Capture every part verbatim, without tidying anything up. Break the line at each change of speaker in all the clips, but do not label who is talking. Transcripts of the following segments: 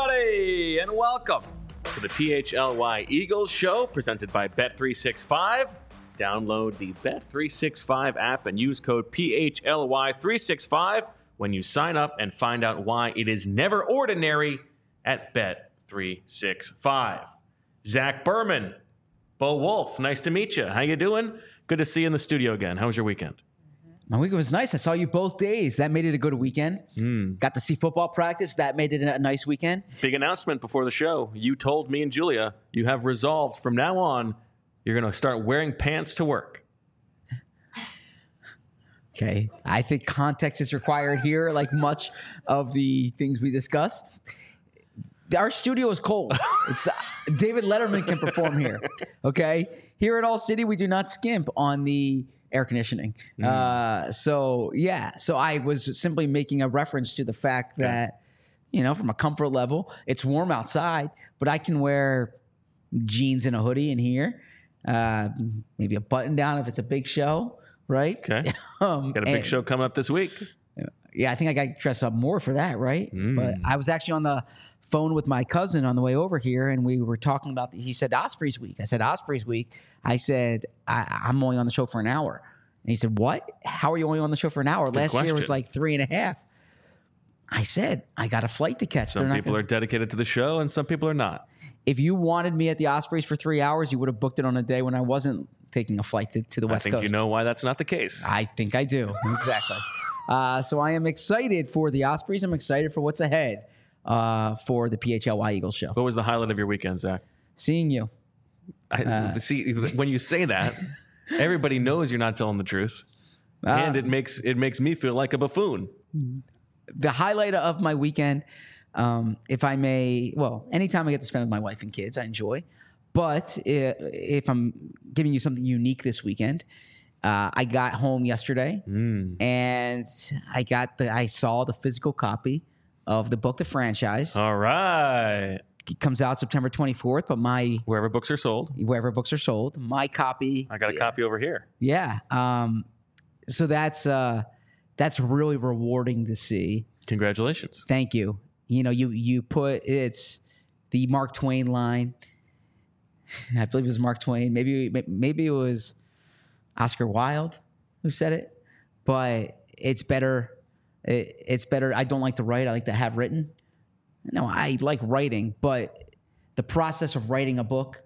everybody, and welcome to the P H L Y Eagles Show, presented by Bet three sixty-five. Download the Bet three sixty-five app and use code P H L Y three sixty-five when you sign up and find out why it is never ordinary at Bet three sixty-five. Zach Berman, Bo Wolf, nice to meet you. How you doing? Good to see you in the studio again. How was your weekend?
My weekend was nice. I saw you both days. That made it a good weekend.
Mm.
Got to see football practice. That made it a nice weekend.
Big announcement before the show. You told me and Julia you have resolved from now on you're going to start wearing pants to work.
Okay. I think context is required here, like much of the things we discuss. Our studio is cold. It's uh, David Letterman can perform here. Okay. Here at All City, we do not skimp on the air conditioning. Mm. Uh, so, yeah. So I was simply making a reference to the fact that, yeah. you know, from a comfort level, it's warm outside, but I can wear jeans and a hoodie in here. Uh, maybe a button down if it's a big show, right?
Okay. um, Got a big and, show coming up this week.
Yeah, I think I got dressed up more for that, right?
Mm.
But I was actually on the phone with my cousin on the way over here, and we were talking about, the, he said Osprey's week. I said, Osprey's week. I said, I, I'm only on the show for an hour. And he said, what? How are you only on the show for an hour?
Good
Last
question.
year was like three and a half. I said, I got a flight to catch.
Some people
gonna...
are dedicated to the show, and some people are not.
If you wanted me at the Ospreys for three hours, you would have booked it on a day when I wasn't taking a flight to, to the West Coast.
I think Coast. You know why that's not the case.
I think I do. Exactly. Uh, so I am excited for the Ospreys. I'm excited for what's ahead uh, for the P H L Y Eagles show.
What was the highlight of your weekend, Zach?
Seeing you.
I, uh, see, when you say that, everybody knows you're not telling the truth, uh, and it makes it makes me feel like a buffoon.
The highlight of my weekend, um, if I may, well, anytime I get to spend with my wife and kids, I enjoy. But if, if I'm giving you something unique this weekend, uh, I got home yesterday
mm.
and I got the I saw the physical copy of the book, The Franchise.
All right.
It comes out September twenty-fourth, but my
wherever books are sold,
wherever books are sold, my copy.
I got a yeah. copy over here.
Yeah. Um, so that's uh, that's really rewarding to see.
Congratulations.
Thank you. You know, you you put it's the Mark Twain line. I believe it was Mark Twain. Maybe maybe it was Oscar Wilde who said it. But it's better. It, it's better. I don't like to write. I like to have written. No, I like writing, but the process of writing a book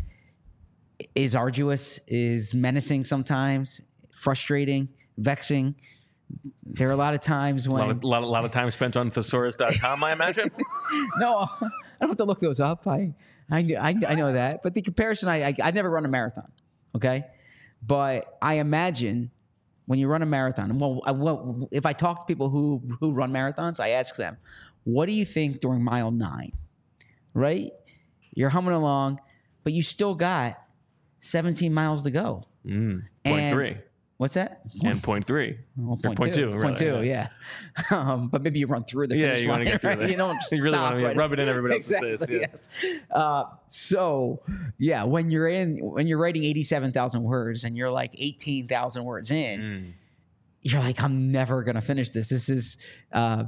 is arduous, is menacing sometimes, frustrating, vexing. There are a lot of times when...
A lot of, lot, lot of time spent on thesaurus dot com, I imagine?
No, I don't have to look those up. I I, I, I know that. But the comparison, I, I, I've never run a marathon, okay? But I imagine when you run a marathon, well, I, well, if I talk to people who, who run marathons, I ask them, what do you think during mile nine, right? You're humming along, but you still got seventeen miles to go.
Mm, point
and,
three.
What's that?
And point three.
Well, point,
point two.
two. Point
really,
two, yeah. yeah. Um, but maybe you run through the
yeah,
finish
you
line.
Want to get through
right?
that.
You don't just
you really
stop,
want to
right?
rub it in everybody else's
exactly,
face. Yeah.
Yes. Uh, so, yeah, when you're in, when you're writing eighty-seven thousand words and you're like eighteen thousand words in,
mm.
you're like, I'm never going to finish this. This is... Uh,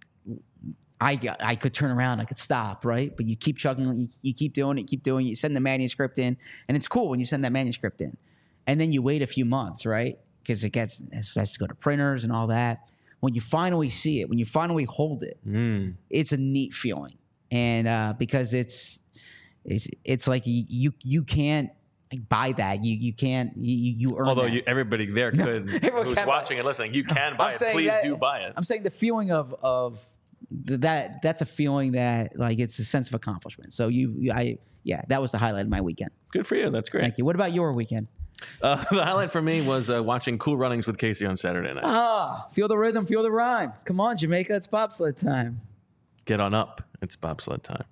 I I could turn around, I could stop, right? But you keep chugging, you, you keep doing it, keep doing it. You send the manuscript in, and it's cool when you send that manuscript in. And then you wait a few months, right? Because it gets it has to go to printers and all that. When you finally see it, when you finally hold it,
mm.
it's a neat feeling. And uh, because it's it's it's like you you, you can't buy that. You you can't you you earn.
Although
that.
You, everybody there could,
no,
who's watching and listening, you can buy
I'm
it. Please
that,
do buy it.
I'm saying the feeling of of that that's a feeling that like it's a sense of accomplishment. So you, you I yeah, that was the highlight of my weekend.
Good for you. That's great.
Thank you. What about your weekend?
Uh, the highlight for me was uh, watching Cool Runnings with Casey on Saturday night.
Ah, feel the rhythm, feel the rhyme. Come on, Jamaica, it's bobsled time.
Get on up. It's bobsled time.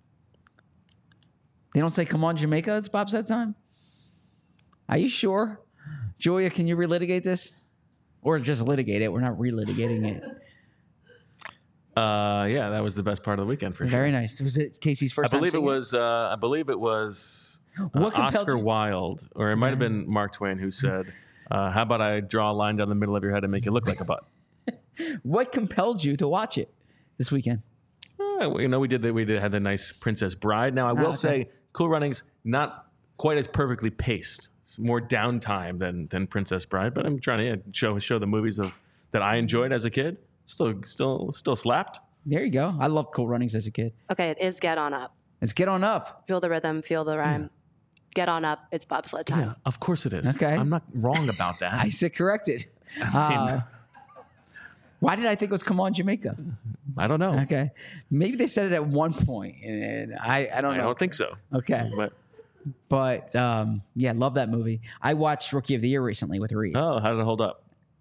They don't say, come on, Jamaica, it's bobsled time? Are you sure? Julia, can you relitigate this? Or just litigate it. We're not relitigating it.
Uh, yeah, that was the best part of the weekend for
Very
sure.
nice. Was it Casey's first
I believe
time
it was. Uh, I believe it was uh,
What compelled
Oscar
you-
Wilde, or it might have been Mark Twain, who said, uh, "How about I draw a line down the middle of your head and make you look like a butt?"
What compelled you to watch it this weekend?
Uh, Well, you know, we did the, we did had the nice Princess Bride. Now, I will
okay.
say, Cool Runnings not quite as perfectly paced. It's more downtime than than Princess Bride. But I'm trying to yeah, show show the movies of that I enjoyed as a kid. Still, still, still slapped.
There you go. I loved Cool Runnings as a kid.
Okay, it is Get On Up.
Let's get on up.
Feel the rhythm, feel the rhyme. Yeah. Get on up. It's bobsled time.
Yeah, of course it is.
Okay.
I'm not wrong about that.
I said corrected. Uh, why did I think it was Come On Jamaica?
I don't know.
Okay. Maybe they said it at one point, and I, I don't
I
know.
don't think so.
Okay.
But
But, um, yeah, love that movie. I watched Rookie of the Year recently with Reed.
oh, how did it hold up?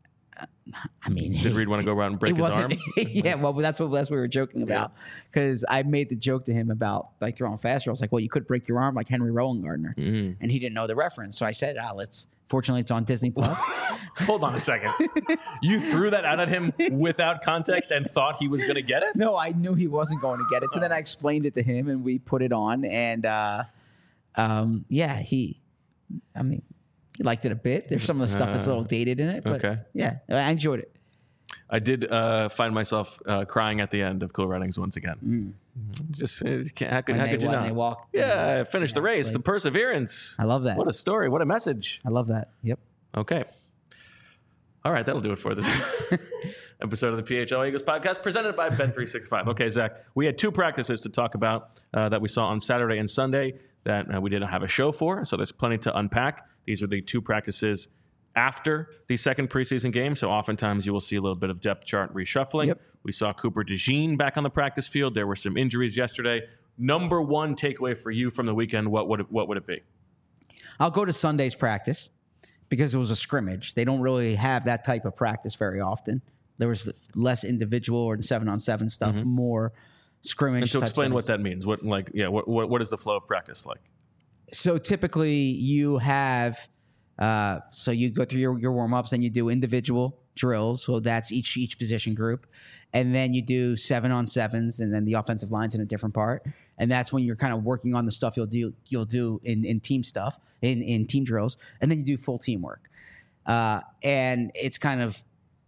I mean,
Did Reed want to go around and break
it
his
wasn't,
arm?
yeah, well, that's what that's what we were joking about. Because I made the joke to him about like throwing fast rolls. Like, well, you could break your arm like Henry Rowan Gardner,
Mm-hmm.
and he didn't know the reference. So I said, "Ah, let's." Fortunately, it's on Disney Plus.
Hold on a second. You threw that out at him without context and thought he was going to get it?
No, I knew he wasn't going to get it. So then I explained it to him, and we put it on. And uh, um, yeah, he. I mean, he liked it a bit. There's some of the stuff that's a little dated in it, but
Okay.
yeah, I enjoyed it.
I did uh, find myself uh, crying at the end of Cool Runnings once again. Just uh, can't- how could,
When
how
they
could you
wa-
not?
they walk-
yeah, finish the
Yeah,
race,
it's
the
like-
perseverance.
I love that.
What a story! What a message!
I love that. Yep.
Okay. All right, that'll do it for this episode of the P H L Eagles podcast presented by Bet three sixty-five. Okay, Zach, we had two practices to talk about uh, that we saw on Saturday and Sunday that uh, we didn't have a show for, so there's plenty to unpack. These are the two practices after the second preseason game, so oftentimes you will see a little bit of depth chart reshuffling.
Yep.
We saw Cooper DeJean back on the practice field. There were some injuries yesterday. Number one takeaway for you from the weekend, what would it, what would it be?
I'll go to Sunday's practice because it was a scrimmage. They don't really have that type of practice very often. There was less individual or seven on seven stuff, more scrimmage.
And so
type
explain what
settings.
that means. What like yeah, what, what what is the flow of practice like?
So typically you have, uh, so you go through your, your warm ups and you do individual drills. So that's each each position group, and then you do seven on sevens, and then the offensive line's in a different part. And that's when you're kind of working on the stuff you'll do you'll do in, in team stuff, in, in team drills, and then you do full teamwork. Uh, and it's kind of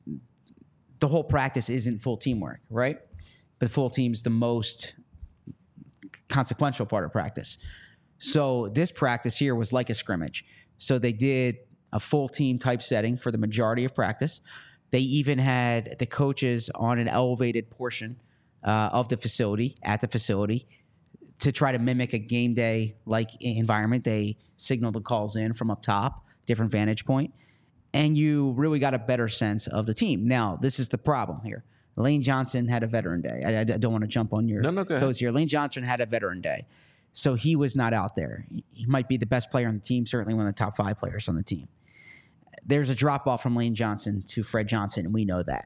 the whole practice isn't full teamwork, right? But full team's the most consequential part of practice. So this practice here was like a scrimmage. So they did a full team type setting for the majority of practice. They even had the coaches on an elevated portion uh, of the facility, at the facility, to try to mimic a game day like environment. They signaled the calls in from up top, different vantage point, and you really got a better sense of the team. Now, this is the problem here. Lane Johnson had a veteran day. I, I don't want to jump on your
No, no, go ahead.
toes here. Lane Johnson had a veteran day. So he was not out there. He might be the best player on the team, certainly one of the top five players on the team. There's a drop-off from Lane Johnson to Fred Johnson, and we know that.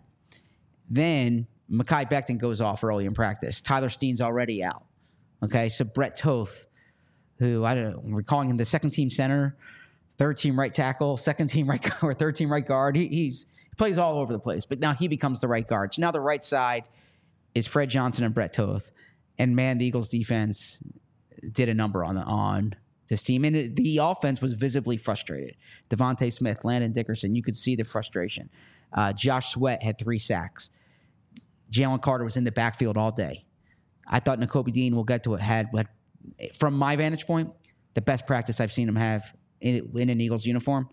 Then Mekhi Becton goes off early in practice. Tyler Steen's already out. Okay, so Brett Toth, who I don't know, we're calling him the second-team center, third-team right tackle, second-team right or third-team right guard. He, he's, he plays all over the place, but now he becomes the right guard. So now the right side is Fred Johnson and Brett Toth. And, man, the Eagles' defense did a number on the, on this team. And it, the offense was visibly frustrated. Devontae Smith, Landon Dickerson, you could see the frustration. Uh, Josh Sweat had three sacks. Jalen Carter was in the backfield all day. I thought Nakobe Dean, we'll get to it, had, had, from my vantage point, the best practice I've seen him have in, in an Eagles uniform.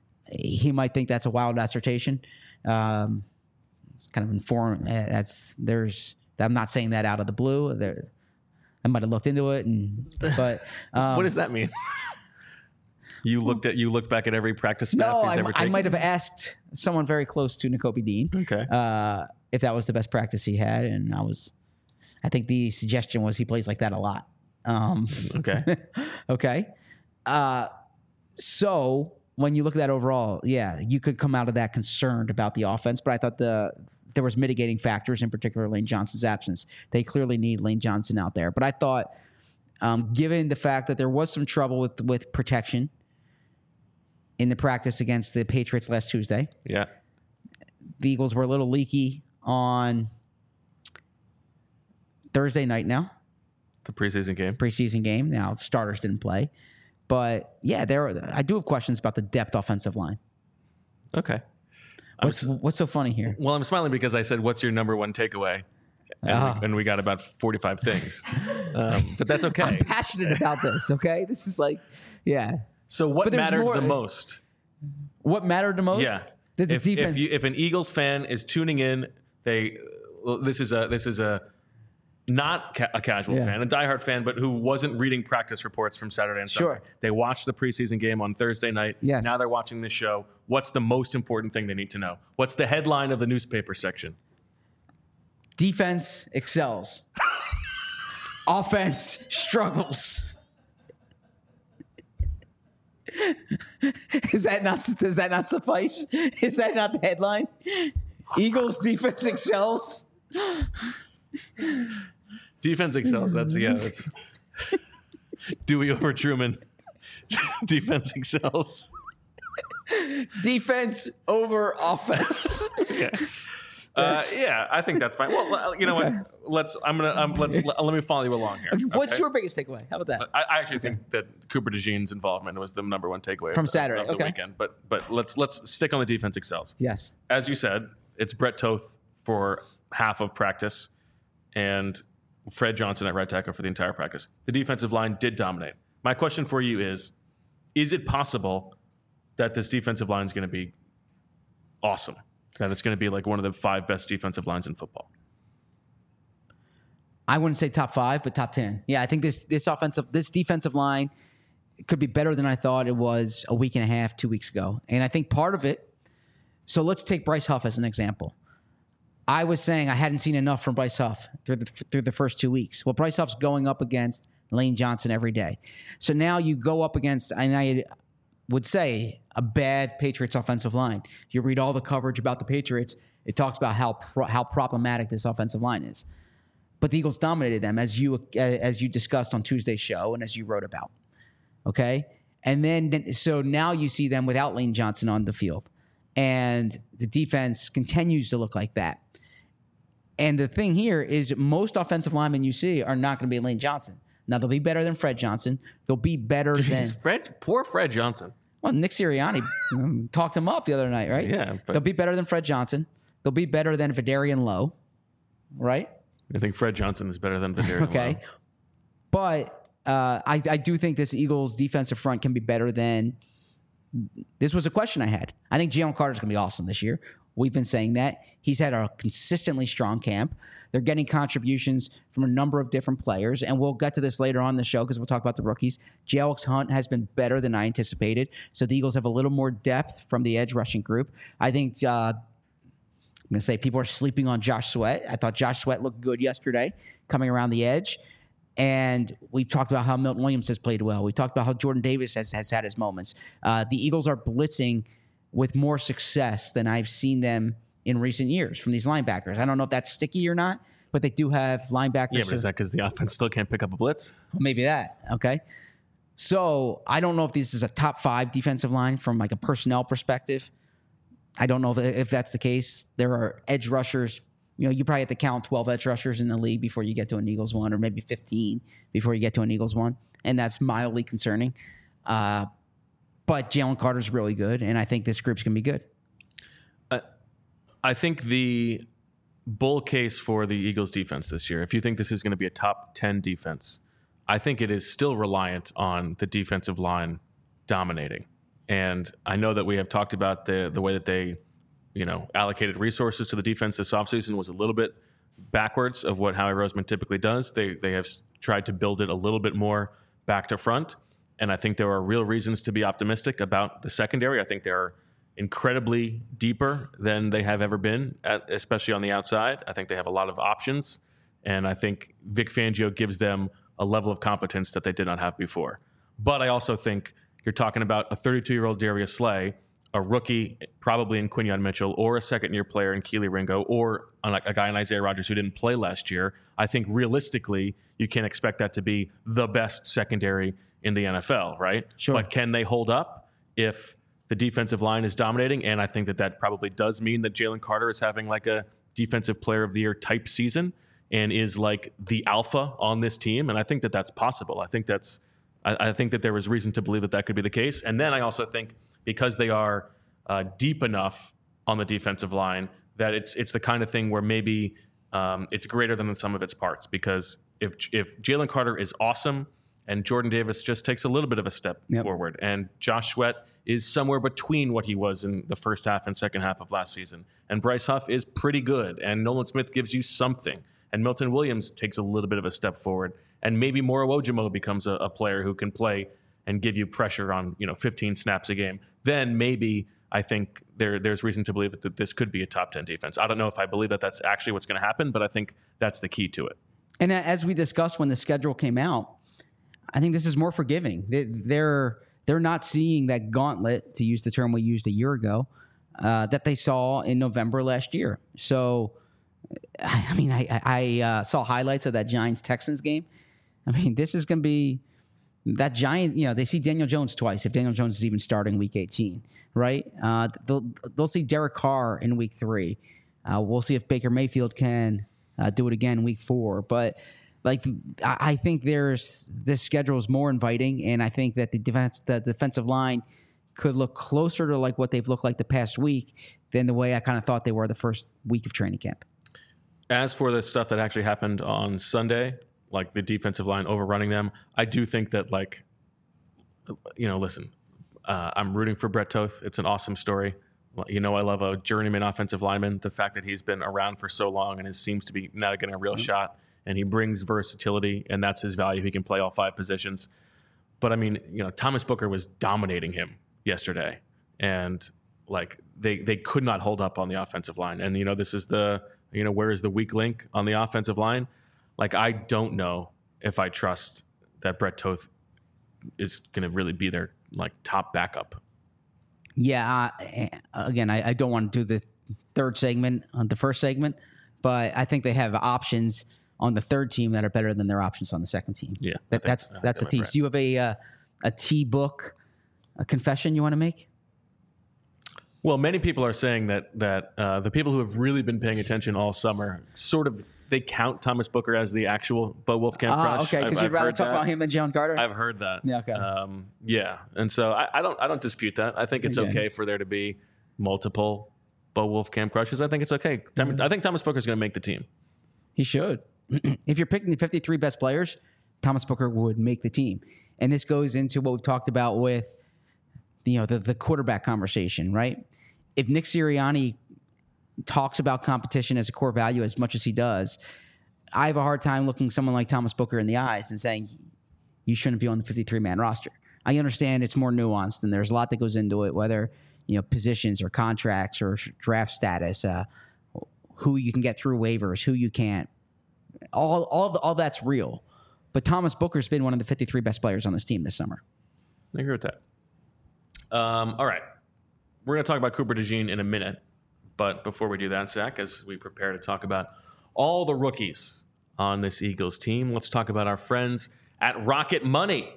He might think that's a wild assertion. Um, it's kind of inform. That's there's. I'm not saying that out of the blue. There, I might have looked into it, and but um,
What does that mean? You looked at you looked back at every practice snap
no,
he's
I,
ever
I
taken?
might have asked someone very close to Nakobe Dean.
Okay.
Uh, if that was the best practice he had, and I was, I think the suggestion was he plays like that a lot. Um,
Okay.
okay. Uh, so when you look at that overall, yeah, you could come out of that concerned about the offense, but I thought the there was mitigating factors, in particular Lane Johnson's absence. They clearly need Lane Johnson out there, but I thought, um, given the fact that there was some trouble with with protection in the practice against the Patriots last Tuesday,
Yeah.
the Eagles were a little leaky on Thursday night now,
The preseason game.
preseason game. Now, starters didn't play. But, yeah, there. Are, I do have questions about the depth offensive line.
Okay. I'm
What's,
s-
what's so funny here?
well, I'm smiling because I said, "What's your number one takeaway?" and,
Ah.
we, and we got about forty-five things. Um, but that's okay.
I'm passionate about this. Okay, this is like, yeah.
So what
But there's
mattered
more-
the most?
What mattered the most?
Yeah.
That the
if,
defense.
if, you, if an Eagles fan is tuning in, they well, this is a this is a not ca- a casual
Yeah.
fan, a diehard fan, but who wasn't reading practice reports from Saturday and Sunday.
Sure.
They watched the preseason game on Thursday night.
Yes.
Now they're watching this show. What's the most important thing they need to know? What's the headline of the newspaper section?
Defense excels. Offense struggles. Is that not? Does that not suffice? Is that not the headline? Eagles defense excels.
Defense excels. That's yeah. That's Dewey over Truman. Defense excels.
Defense over offense.
Okay. Uh, yeah, I think that's fine. Well, you know
Okay.
what? Let's. I'm gonna. Um, let's. Let, let me follow you along here.
What's
okay?
your biggest takeaway? How about that?
I, I actually think that Cooper DeJean's involvement was the number one takeaway
From
of,
Saturday,
of the
okay.
weekend. But but let's let's stick on the defense excels.
Yes.
As you said, it's Brett Toth for half of practice, and Fred Johnson at right tackle for the entire practice. The defensive line did dominate. My question for you is: is it possible that this defensive line is going to be awesome? That it's going to be like one of the five best defensive lines in football?
I wouldn't say top five, but top ten. Yeah, I think this this offensive, this defensive line could be better than I thought it was a week and a half, two weeks ago. And I think part of it. So let's take Bryce Huff as an example. I was saying I hadn't seen enough from Bryce Huff through the through the first two weeks. Well, Bryce Huff's going up against Lane Johnson every day. So now you go up against, and I would say, a bad Patriots offensive line. You read all the coverage about the Patriots, it talks about how pro- how problematic this offensive line is. But the Eagles dominated them, as you as you discussed on Tuesday's show and as you wrote about. Okay? And then, so now you see them without Lane Johnson on the field. And the defense continues to look like that. And the thing here is most offensive linemen you see are not going to be Lane Johnson. Now, they'll be better than Fred Johnson. They'll be better than...
Fred, poor Fred Johnson.
Well, Nick Sirianni um, talked him up the other night, right?
Yeah, but-
They'll be better than Fred Johnson. They'll be better than Vidarian Lowe, right?
I think Fred Johnson is better than Vidarian
Okay.
Lowe.
But uh, I, I do think this Eagles defensive front can be better than... This was a question I had. I think Jalen Carter's going to be awesome this year. We've been saying that. He's had a consistently strong camp. They're getting contributions from a number of different players, and we'll get to this later on in the show because we'll talk about the rookies. J-Alex Hunt has been better than I anticipated, so the Eagles have a little more depth from the edge rushing group. I think uh, I'm going to say people are sleeping on Josh Sweat. I thought Josh Sweat looked good yesterday coming around the edge. And we've talked about how Milton Williams has played well. We talked about how Jordan Davis has, has had his moments. Uh, the Eagles are blitzing with more success than I've seen them in recent years from these linebackers. I don't know if that's sticky or not, but they do have linebackers.
Yeah, but
who-
is that because the offense still can't pick up a blitz?
Maybe that. Okay. So I don't know if this is a top five defensive line from like a personnel perspective. I don't know if, if that's the case. There are edge rushers. You know, you probably have to count twelve edge rushers in the league before you get to an Eagles one, or maybe fifteen before you get to an Eagles one. And that's mildly concerning. Uh, but Jalen Carter's really good, and I think this group's going to be good.
I think the bull case for the Eagles defense this year, if you think this is going to be a top ten defense, I think it is still reliant on the defensive line dominating. And I know that we have talked about the the way that they, you know, allocated resources to the defense this offseason was a little bit backwards of what Howie Roseman typically does. They they have tried to build it a little bit more back to front. And I think there are real reasons to be optimistic about the secondary. I think they're incredibly deeper than they have ever been, at, especially on the outside. I think they have a lot of options. And I think Vic Fangio gives them a level of competence that they did not have before. But I also think you're talking about a thirty-two-year-old Darius Slay, a rookie probably in Quinyon Mitchell, or a second-year player in Keely Ringo, or a guy in Isaiah Rodgers who didn't play last year. I think realistically, you can't expect that to be the best secondary in the N F L, right?
Sure.
But can they hold up if the defensive line is dominating? And I think that that probably does mean that Jalen Carter is having like a defensive player of the year type season and is like the alpha on this team. And I think that that's possible. I think that's, I, I think that there is reason to believe that that could be the case. And then I also think because they are uh, deep enough on the defensive line that it's it's the kind of thing where maybe um, it's greater than the sum of its parts. Because if if Jalen Carter is awesome and Jordan Davis just takes a little bit of a step
Yep.
forward, and Josh Sweat is somewhere between what he was in the first half and second half of last season, and Bryce Huff is pretty good, and Nolan Smith gives you something, and Milton Williams takes a little bit of a step forward, and maybe Moro Ojimo becomes a, a player who can play and give you pressure on, you know, fifteen snaps a game, then maybe I think there there's reason to believe that, that this could be a top ten defense. I don't know if I believe that that's actually what's going to happen, but I think that's the key to it.
And as we discussed when the schedule came out, I think this is more forgiving. They- They're they're not seeing that gauntlet, to use the term we used a year ago, uh, that they saw in November last year. So, I mean, I, I uh, saw highlights of that Giants-Texans game. I mean, this is going to be that Giant, you know, they see Daniel Jones twice, if Daniel Jones is even starting week eighteen, right? Uh, they'll, they'll see Derek Carr in week three. Uh, we'll see if Baker Mayfield can uh, do it again week four. But, like, I, I think there's this schedule is more inviting, and I think that the defense, the defensive line could look closer to like what they've looked like the past week than the way I kind of thought they were the first week of training camp.
As for the stuff that actually happened on Sunday, like the defensive line overrunning them, I do think that, like, you know, listen, uh, I'm rooting for Brett Toth. It's an awesome story. You know, I love a journeyman offensive lineman. The fact that he's been around for so long and it seems to be now getting a real mm-hmm. shot, and he brings versatility, and that's his value. He can play all five positions. But I mean, you know, Thomas Booker was dominating him yesterday, and like they they could not hold up on the offensive line. And you know, this is the you know where is the weak link on the offensive line? Like, I don't know if I trust that Brett Toth is going to really be their like top backup.
Yeah. Uh, again, I, I don't want to do the third segment on the first segment, but I think they have options on the third team that are better than their options on the second team.
Yeah,
that,
think,
that's that's a team.
Right.
So you have a uh, a T book, a confession you want to make?
Well, many people are saying that that uh, the people who have really been paying attention all summer sort of they count Thomas Booker as the actual Bo Wolfkamp
Ah,
crush.
okay, because you'd
I've
rather
heard
talk
that.
about him than John Carter.
I've heard that.
Yeah, okay.
Um, yeah, and so I, I don't I don't dispute that. I think it's
Okay.
okay for there to be multiple Bo Wolfkamp crushes. I think it's okay. Mm-hmm. I think Thomas Booker's going to make the team.
He should. If you're picking the fifty-three best players, Thomas Booker would make the team. And this goes into what we've talked about with you know the, the quarterback conversation, right? If Nick Sirianni talks about competition as a core value as much as he does, I have a hard time looking someone like Thomas Booker in the eyes and saying you shouldn't be on the fifty-three man roster. I understand it's more nuanced and there's a lot that goes into it, whether you know positions or contracts or draft status, uh, who you can get through waivers, who you can't. All all the, all that's real. But Thomas Booker's been one of the fifty-three best players on this team this summer.
I agree with that. Um, all right. We're going to talk about Cooper DeJean in a minute. But before we do that, Zach, as we prepare to talk about all the rookies on this Eagles team, let's talk about our friends at Rocket Money.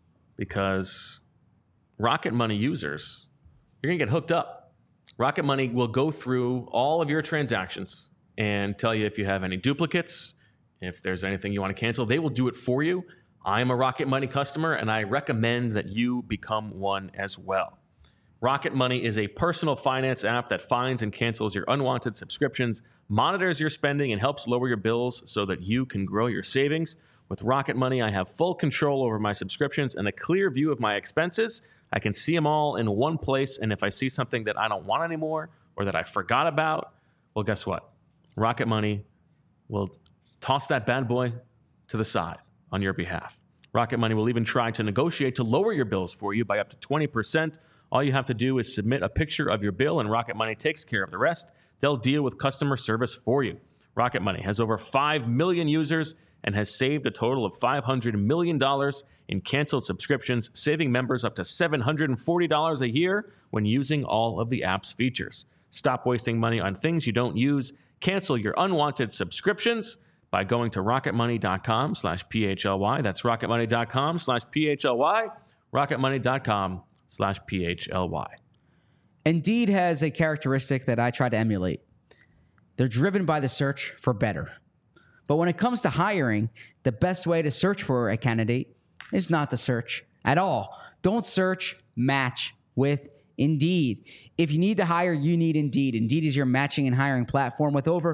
Because Rocket Money users, you're going to get hooked up. Rocket Money will go through all of your transactions and tell you if you have any duplicates, if there's anything you want to cancel. They will do it for you. I'm a Rocket Money customer, and I recommend that you become one as well. Rocket Money is a personal finance app that finds and cancels your unwanted subscriptions, monitors your spending, and helps lower your bills so that you can grow your savings. With Rocket Money, I have full control over my subscriptions and a clear view of my expenses. I can see them all in one place, and if I see something that I don't want anymore or that I forgot about, well, guess what? Rocket Money will toss that bad boy to the side on your behalf. Rocket Money will even try to negotiate to lower your bills for you by up to twenty percent. All you have to do is submit a picture of your bill, and Rocket Money takes care of the rest. They'll deal with customer service for you. Rocket Money has over five million users and has saved a total of five hundred million dollars in canceled subscriptions, saving members up to seven hundred forty dollars a year when using all of the app's features. Stop wasting money on things you don't use. Cancel your unwanted subscriptions by going to rocketmoney.com slash PHLY. That's rocketmoney.com slash PHLY. rocketmoney.com slash PHLY.
Indeed has a characteristic that I try to emulate. They're driven by the search for better. But when it comes to hiring, the best way to search for a candidate is not to search at all. Don't search, match with Indeed. If you need to hire, you need Indeed. Indeed is your matching and hiring platform with over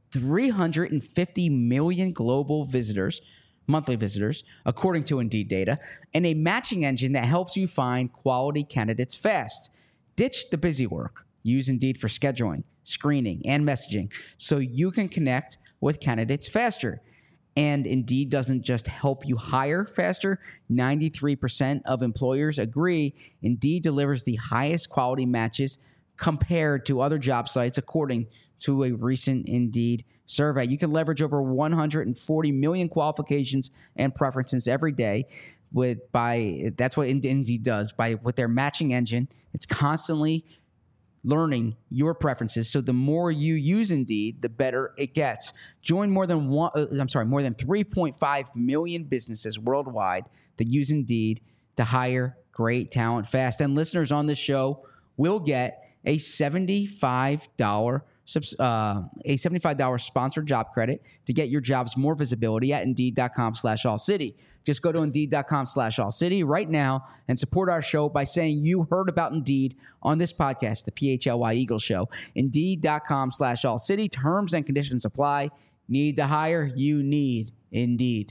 three hundred fifty million global visitors, monthly visitors, according to Indeed data, and a matching engine that helps you find quality candidates fast. Ditch the busy work. Use Indeed for scheduling, screening, and messaging so you can connect with candidates faster. And Indeed doesn't just help you hire faster. ninety-three percent of employers agree Indeed delivers the highest quality matches compared to other job sites, according to a recent Indeed survey. You can leverage over one hundred forty million qualifications and preferences every day with by that's what Indeed does by with their matching engine. It's constantly learning your preferences. So the more you use Indeed, the better it gets. Join more than one, uh, I'm sorry, more than three point five million businesses worldwide that use Indeed to hire great talent fast. And listeners on this show will get a seventy-five dollars uh, a seventy-five dollars sponsored job credit to get your jobs more visibility at Indeed.com slash All City. Just go to Indeed.com slash All City right now and support our show by saying you heard about Indeed on this podcast, the P H L Y Eagles Show. Indeed.com slash All City. Terms and conditions apply. Need to hire? You need Indeed.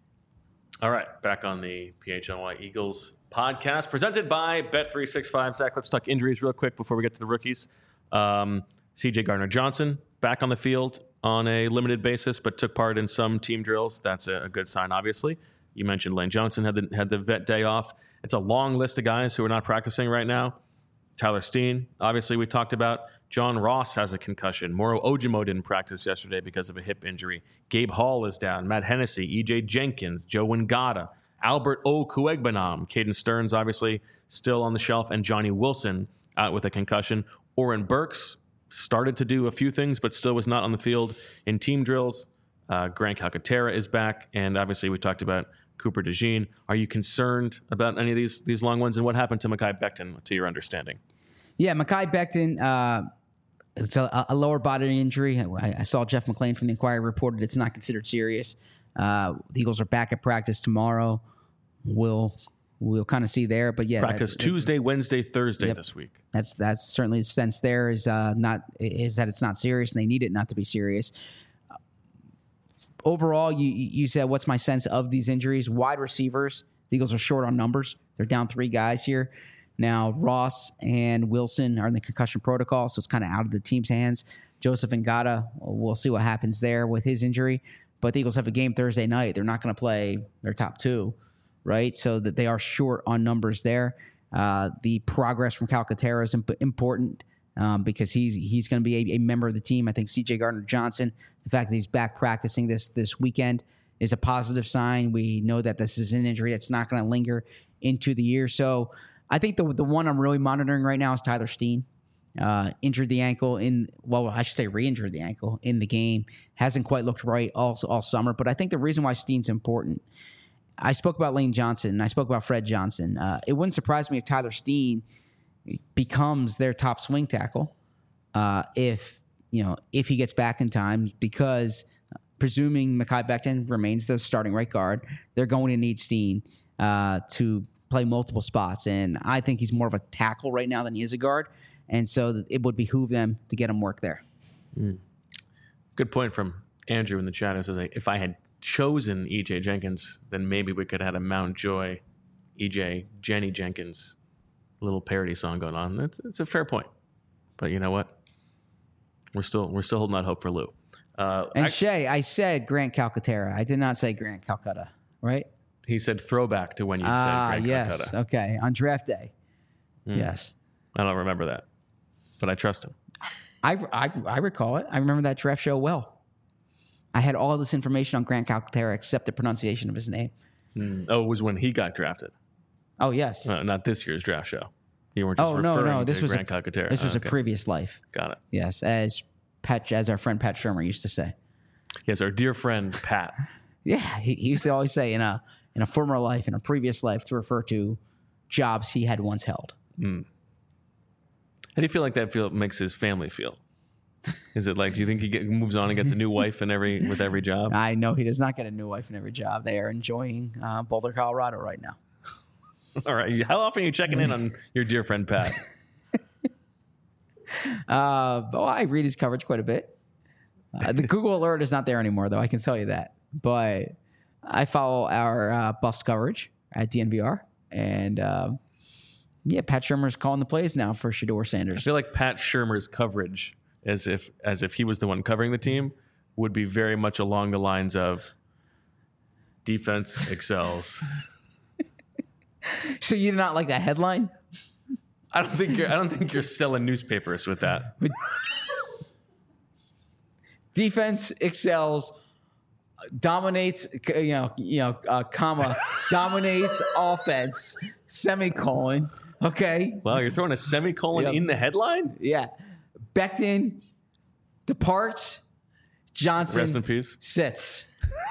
All right, back on the P H L Y Eagles podcast presented by Bet three sixty-five. Zach, let's talk injuries real quick before we get to the rookies. Um, C J Gardner-Johnson back on the field on a limited basis, but took part in some team drills. That's a, a good sign, obviously. You mentioned Lane Johnson had the, had the vet day off. It's a long list of guys who are not practicing right now. Tyler Steen, obviously, we talked about. John Ross has a concussion. Moro Ojimo didn't practice yesterday because of a hip injury. Gabe Hall is down. Matt Hennessy, E J Jenkins, Joe Ngata, Albert Okuegbanam, Caden Stearns, obviously, still on the shelf, and Johnny Wilson out with a concussion. Oren Burks started to do a few things, but still was not on the field in team drills. Uh, Grant Calcaterra is back, and obviously we talked about Cooper DeJean. Are you concerned about any of these these long ones? And what happened to Mekhi Becton, to your understanding?
Yeah, Mekhi Becton, uh, it's a, a lower body injury. I, I saw Jeff McClain from the Inquirer reported it's not considered serious. Uh, the Eagles are back at practice tomorrow. We'll we'll kind of see there, but yeah,
practice that, Tuesday, it, Wednesday, Thursday yep, this week.
That's that's certainly the sense there is uh, not is that it's not serious, and they need it not to be serious. Overall, you you said, what's my sense of these injuries? Wide receivers, the Eagles are short on numbers. They're down three guys here. Now, Ross and Wilson are in the concussion protocol, so it's kind of out of the team's hands. Joseph Ngata, we'll see what happens there with his injury. But the Eagles have a game Thursday night. They're not going to play their top two, right? So that they are short on numbers there. Uh, the progress from Calcaterra is imp- important. Um, because he's he's going to be a, a member of the team. I think C J Gardner-Johnson, the fact that he's back practicing this this weekend is a positive sign. We know that this is an injury that's not going to linger into the year. So I think the the one I'm really monitoring right now is Tyler Steen. Uh, injured the ankle in, well, I should say re-injured the ankle in the game. Hasn't quite looked right all, all summer. But I think the reason why Steen's important, I spoke about Lane Johnson and I spoke about Fred Johnson. Uh, it wouldn't surprise me if Tyler Steen becomes their top swing tackle uh, if you know if he gets back in time, because presuming Mekhi Becton remains the starting right guard, they're going to need Steen uh, to play multiple spots, and I think he's more of a tackle right now than he is a guard, and so it would behoove them to get him work there.
Mm. Good point from Andrew in the chat. It says, if I had chosen E J Jenkins, then maybe we could have had a Mount Joy E J Jenny Jenkins little parody song going on. It's it's a fair point, but you know what? We're still we're still holding out hope for Lou. Uh,
and
I,
Shay, I said Grant Calcaterra. I did not say Grant Calcutta, right?
He said throwback to when you
ah,
said Grant
yes.
Calcutta.
Okay, on draft day. Mm. Yes.
I don't remember that, but I trust him.
I, I I recall it. I remember that draft show well. I had all this information on Grant Calcaterra except the pronunciation of his name.
Mm. Oh, it was when he got drafted.
Oh, yes.
No, not this year's draft show. You weren't just
oh,
referring
no, no. This
to
was
Grant
a,
Calcaterra.
This was
oh, okay.
a previous life.
Got it.
Yes, as Pat, as our friend Pat Shermer used to say.
Yes, our dear friend Pat.
Yeah, he, he used to always say in a in a former life, in a previous life, to refer to jobs he had once held.
Mm. How do you feel like that feel makes his family feel? Is it like, do you think he get, moves on and gets a new wife in every with every job?
I know he does not get a new wife in every job. They are enjoying uh, Boulder, Colorado right now.
All right. How often are you checking in on your dear friend Pat?
uh, oh, I read his coverage quite a bit. Uh, the Google alert is not there anymore, though. I can tell you that. But I follow our uh, Buffs coverage at D N V R, and uh, yeah, Pat Shurmur's calling the plays now for Shedeur
I
Sanders.
feel like Pat Shurmur's coverage, as if as if he was the one covering the team, would be very much along the lines of defense excels.
So you do not like that headline?
I don't think you're I don't think you're selling newspapers with that.
Defense excels, dominates, you know, you know, uh, comma, dominates offense, semicolon. Okay.
Wow, you're throwing a semicolon
Yep.
in the headline?
Yeah. Becton departs. Johnson
Rest in peace.
sits.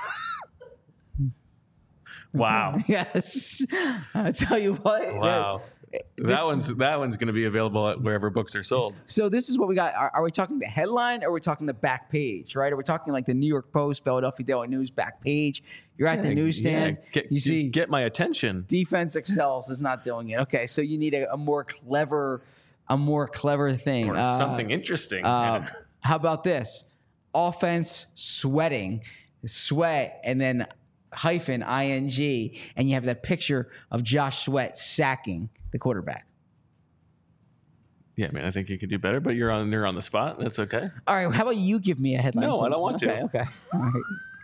Wow.
Yes. I tell you what.
Wow.
This-
That one's that one's going to be available at wherever books are sold.
So this is what we got. Are, are we talking the headline or are we talking the back page, right? Are we talking like the New York Post, Philadelphia Daily News back page? You're at the newsstand.
Yeah, get,
you see
get my attention.
defense excels is not doing it. Okay, so you need a, a more clever, a more clever thing.
Or
Uh,
something interesting.
uh, how about this? Offense sweating, sweat, and then hyphen ing, and you have that picture of Josh Sweat sacking the quarterback.
Yeah, man, I think you could do better, but you're on you're on the spot. That's okay.
All right, how about you give me a headline?
No, I
please?
don't want to.
Okay, okay. All right.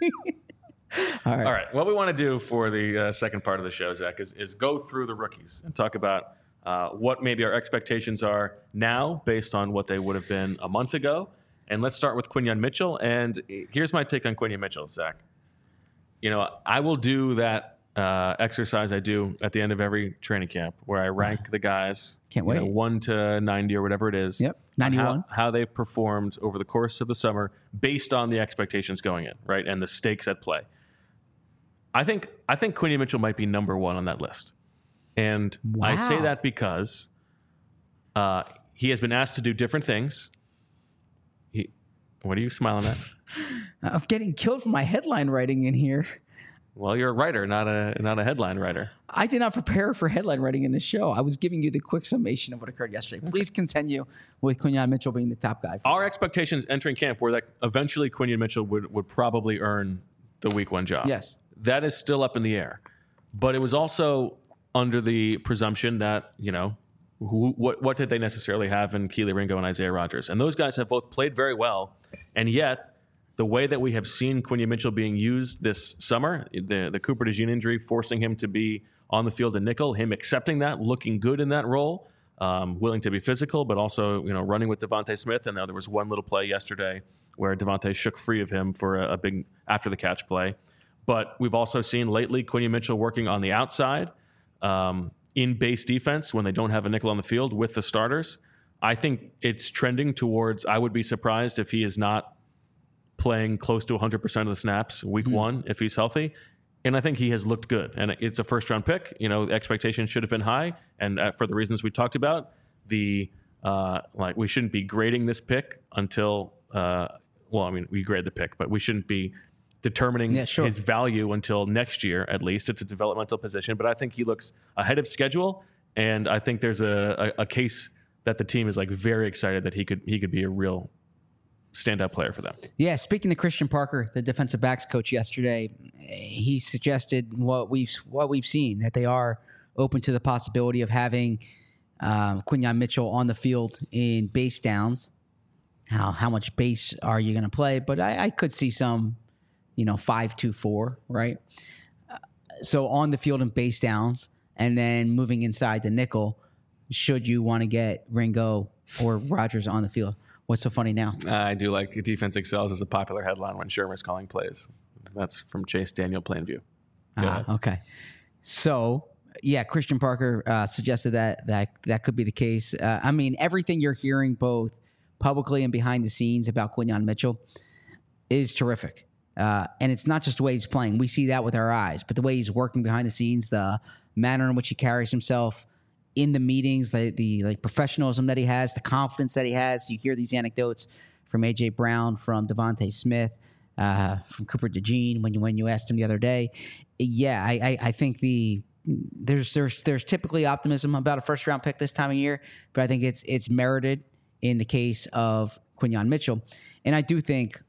All right.
All right. What we want to do for the uh, second part of the show, Zach, is, is go through the rookies and talk about uh, what maybe our expectations are now based on what they would have been a month ago. And let's start with Quinyon Mitchell. And here's my take on Quinyon Mitchell, Zach. You know, I will do that uh, exercise I do at the end of every training camp where I rank the guys.
Can't
you know,
wait.
one to ninety or whatever it is.
Yep,
on
ninety-one.
How, how they've performed over the course of the summer based on the expectations going in, right? And the stakes at play. I think I think Quinyon Mitchell might be number one on that list. And I say
Wow.
that because uh, he has been asked to do different things. He, what are you smiling at?
I'm getting killed for my headline writing in here.
Well, you're a writer, not a not a headline writer.
I did not prepare for headline writing in this show. I was giving you the quick summation of what occurred yesterday. Please continue with Quinyon Mitchell being the top guy.
Our expectations entering camp were that eventually Quinyon Mitchell would, would probably earn the week one job.
Yes.
That is still up in the air. But it was also under the presumption that, you know, who, what, what did they necessarily have in Keely Ringo and Isaiah Rodgers? And those guys have both played very well. And yet, the way that we have seen Quinyon Mitchell being used this summer, the, the Cooper DeJean injury forcing him to be on the field in nickel, him accepting that, looking good in that role, um, willing to be physical, but also, you know, running with Devontae Smith. And now there was one little play yesterday where Devontae shook free of him for a, a big after-the-catch play. But we've also seen lately Quinyon Mitchell working on the outside um, in base defense when they don't have a nickel on the field with the starters. I think it's trending towards, I would be surprised if he is not playing close to one hundred percent of the snaps week mm-hmm. one if he's healthy. And I think he has looked good. And it's a first-round pick. You know, the expectations should have been high. And uh, for the reasons we talked about, the uh, like we shouldn't be grading this pick until, uh, well, I mean, we grade the pick, but we shouldn't be determining
yeah, sure.
his value until next year, at least. It's a developmental position, but I think he looks ahead of schedule, and I think there's a, a, a case that the team is like very excited that he could he could be a real standout player for them.
Yeah, speaking to Christian Parker, the defensive backs coach yesterday, he suggested what we've what we've seen, that they are open to the possibility of having um, Quinyon Mitchell on the field in base downs. How how much base are you going to play? But I, I could see some, you know, five two four, right? Uh, so on the field in base downs, and then moving inside the nickel, should you want to get Ringo or Rodgers on the field. What's so funny now?
Uh, I do like defense excels as a popular headline when Shermer's calling plays. That's from Chase Daniel Plainview. Go
Ah, okay. So, yeah, Christian Parker uh, suggested that, that that could be the case. Uh, I mean, everything you're hearing both publicly and behind the scenes about Quinyon Mitchell is terrific. Uh, and it's not just the way he's playing. We see that with our eyes. But the way he's working behind the scenes, the manner in which he carries himself in the meetings, the, the like professionalism that he has, the confidence that he has. You hear these anecdotes from A J. Brown, from Devontae Smith, uh, from Cooper DeJean when you when you asked him the other day. Yeah, I, I, I think the there's there's there's typically optimism about a first round pick this time of year, but I think it's it's merited in the case of Quinyon Mitchell. And I do think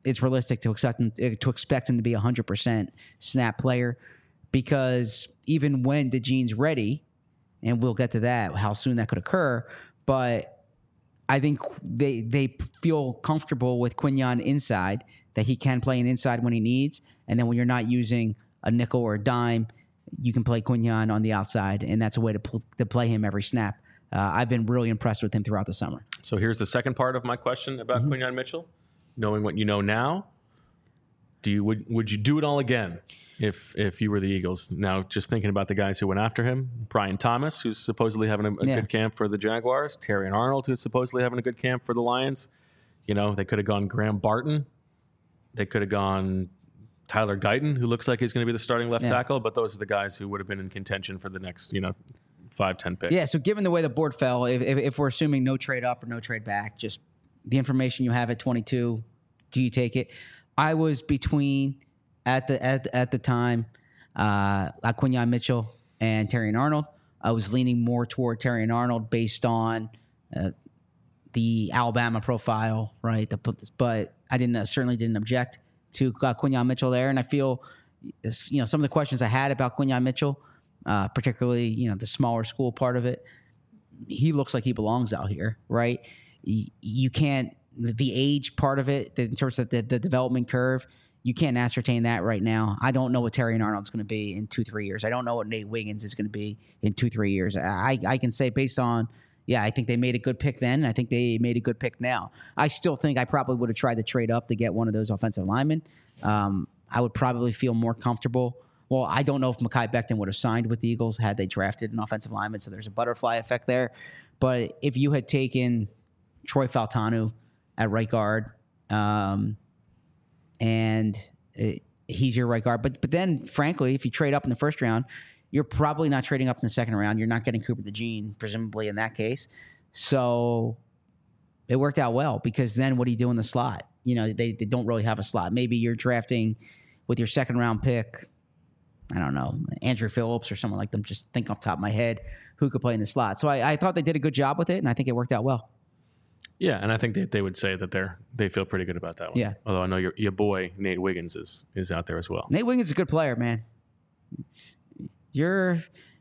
it's realistic to expect him to expect him to be a hundred percent snap player, because even when DeJean's ready, and we'll get to that, how soon that could occur, but I think they they feel comfortable with Quinyon inside, that he can play an inside when he needs, and then when you're not using a nickel or a dime, you can play Quinyon on the outside, and that's a way to pl- to play him every snap. Uh, I've been really impressed with him throughout the summer.
So here's the second part of my question about mm-hmm. Quinyon Mitchell. Knowing what you know now, do you would would you do it all again if if you were the Eagles? Now, just thinking about the guys who went after him, Brian Thomas, who's supposedly having a, a yeah. good camp for the Jaguars, Terry and Arnold, who's supposedly having a good camp for the Lions. You know, they could have gone Graham Barton. They could have gone Tyler Guyton, who looks like he's going to be the starting left yeah. tackle, but those are the guys who would have been in contention for the next, you know, five, ten picks.
Yeah, so given the way the board fell, if, if, if we're assuming no trade up or no trade back, just the information you have at twenty-two, do you take it? I was between, at the at, at the time, uh, Quinyon Mitchell and Terry and Arnold. I was leaning more toward Terry and Arnold based on uh, the Alabama profile, right? The, but I didn't uh, certainly didn't object to uh, Quinyon Mitchell there, and I feel, you know, some of the questions I had about Quinyon Mitchell, uh, particularly, you know, the smaller school part of it, he looks like he belongs out here, right? You, you can't, the age part of it, in terms of the, the development curve, you can't ascertain that right now. I don't know what Terry and Arnold's going to be in two, three years. I don't know what Nate Wiggins is going to be in two, three years. I, I can say based on, yeah, I think they made a good pick then. I think they made a good pick now. I still think I probably would have tried to trade up to get one of those offensive linemen. Um, I would probably feel more comfortable. Well, I don't know if Mekhi Becton would have signed with the Eagles had they drafted an offensive lineman, so there's a butterfly effect there. But if you had taken Troy Faltanu at right guard, um, and it, he's your right guard, but but then, frankly, if you trade up in the first round, you're probably not trading up in the second round. You're not getting Cooper DeJean, presumably, in that case. So it worked out well, because then what do you do in the slot? You know, they, they don't really have a slot. Maybe you're drafting with your second round pick, I don't know, Andrew Phillips or someone like them. Just think off the top of my head who could play in the slot. So I, I thought they did a good job with it, and I think it worked out well.
Yeah, and I think they, they would say that they're they feel pretty good about that one.
Yeah.
Although I know your your boy Nate Wiggins is is out there as well.
Nate Wiggins is a good player, man. You're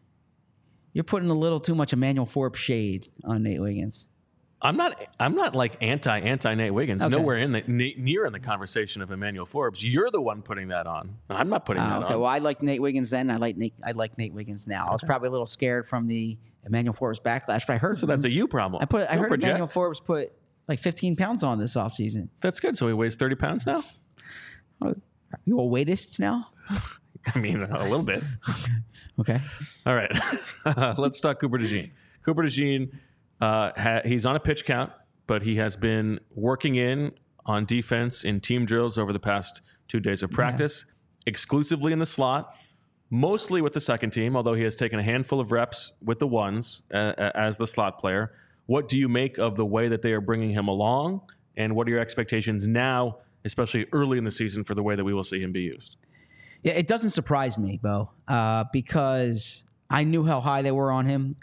you're putting a little too much Emmanuel Forbes shade on Nate Wiggins.
I'm not. I'm not like anti anti Nate Wiggins.
Okay.
Nowhere in the near in the conversation of Emmanuel Forbes. You're the one putting that on. I'm not putting
uh,
that
okay.
on.
Well, I like Nate Wiggins then. I like Nate. I like Nate Wiggins now. Okay. I was probably a little scared from the Emmanuel Forbes backlash, but I heard.
So that's a you problem.
I put.
Don't
I heard
project.
Emmanuel Forbes put like fifteen pounds on this offseason.
That's good. So he weighs thirty pounds now.
Are you a weightist now?
I mean, a little bit.
Okay.
All right. Let's talk Cooper DeJean. Cooper DeJean, uh, ha- he's on a pitch count, but he has been working in on defense in team drills over the past two days of practice, yeah. exclusively in the slot, mostly with the second team, although he has taken a handful of reps with the ones uh, as the slot player. What do you make of the way that they are bringing him along, and what are your expectations now, especially early in the season, for the way that we will see him be used?
Yeah, it doesn't surprise me, Bo, uh, because I knew how high they were on him.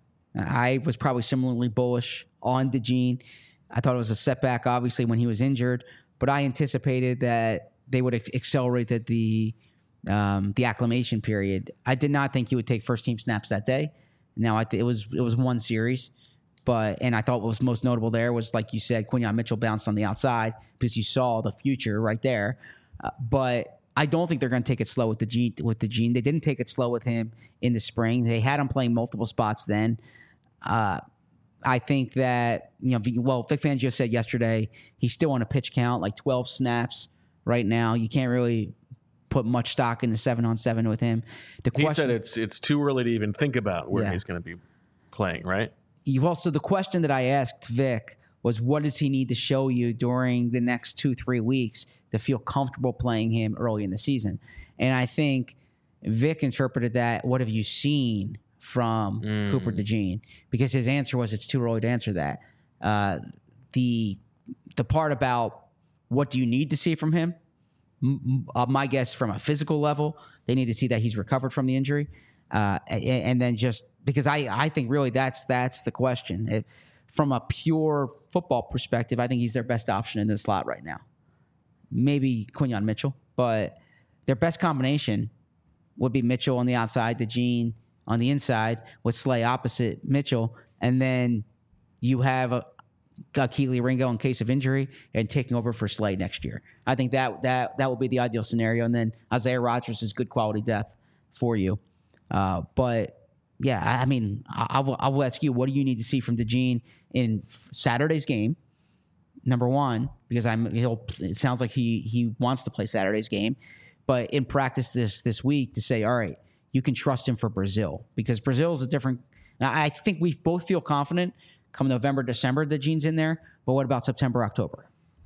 I was probably similarly bullish on DeJean. I thought it was a setback, obviously, when he was injured, but I anticipated that they would accelerate the the, um, the acclimation period. I did not think he would take first team snaps that day. Now, I th- it was it was one series, but and I thought what was most notable there was, like you said, Quinyon Mitchell bounced on the outside because you saw the future right there. Uh, but I don't think they're going to take it slow with DeJean. With DeJean, they didn't take it slow with him in the spring. They had him playing multiple spots then. Uh, I think that, you know, well, Vic Fangio said yesterday he's still on a pitch count, like twelve snaps right now. You can't really put much stock into seven on seven with him. The
he
question,
said it's it's too early to even think about where
yeah.
he's going to be playing, right?
You also, the question that I asked Vic was, what does he need to show you during the next two, three weeks to feel comfortable playing him early in the season? And I think Vic interpreted that, what have you seen from mm. Cooper DeJean? Because his answer was, it's too early to answer that. Uh, the the part about what do you need to see from him, m- uh, my guess from a physical level, they need to see that he's recovered from the injury. Uh, and, and then just because I, I think really that's that's the question. It, from a pure football perspective, I think he's their best option in the slot right now. maybe Quinyon Mitchell, but their best combination would be Mitchell on the outside, DeJean on the inside, with Slay opposite Mitchell, and then you have a, a Keely Ringo in case of injury and taking over for Slay next year. I think that that that would be the ideal scenario, and then Isaiah Rodgers is good quality depth for you. Uh, but yeah, I, I mean, I, I, will, I will ask you, what do you need to see from DeJean in Saturday's game? Number one, because I'm, he'll, it sounds like he he wants to play Saturday's game, but in practice this this week to say, all right, you can trust him for Brazil, because Brazil is a different. I think we both feel confident come November, December that DeJean's in there. But what about September, October?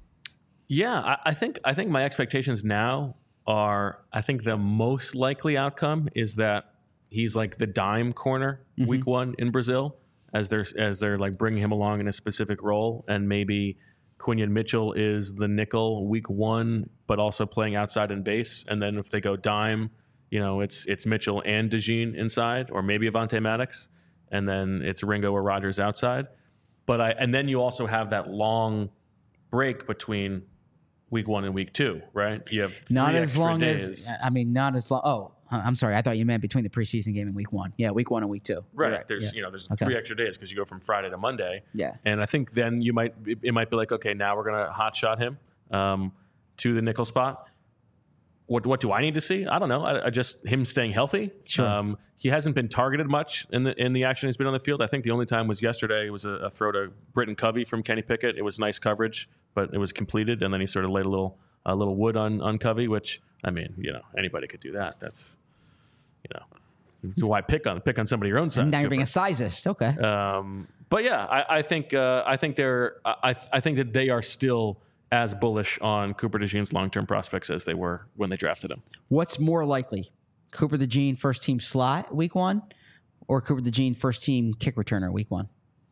Yeah, I, I think I think my expectations now are, I think the most likely outcome is that he's like the dime corner mm-hmm. week one in Brazil, as they're as they're like bringing him along in a specific role, and maybe Quinyon Mitchell is the nickel week one, but also playing outside and base. And then if they go dime, you know, it's it's Mitchell and DeJean inside, or maybe Avonte Maddox, and then it's Ringo or Rodgers outside. But I and then you also have that long break between week one and week two, right? You have three
not as
extra
long
days.
as I mean, not as long. Oh, I'm sorry. I thought you meant between the preseason game and week one. Yeah, week one and week two.
Right.
right.
There's
yeah.
you know there's
okay.
three extra days because you go from Friday to Monday.
Yeah.
And I think then you might it, it might be like, okay, now we're gonna hot shot him um, to the nickel spot. What what do I need to see? I don't know. I, I just him staying healthy.
Sure.
Um, he hasn't been targeted much in the in the action he's been on the field. I think the only time was yesterday. It was a, a throw to Britton Covey from Kenny Pickett. It was nice coverage, but it was completed, and then he sort of laid a little a little wood on on Covey, which I mean, you know, anybody could do that. That's you know, so why pick on pick on somebody your own size?
And now you're
Go
being a
for it.
sizist. Okay.
Um, but yeah, I, I think uh, I think they're I I think that they are still as bullish on Cooper DeJean's long-term prospects as they were when they drafted him.
What's more likely, Cooper DeJean first team slot week one, or Cooper DeJean first team kick returner week one?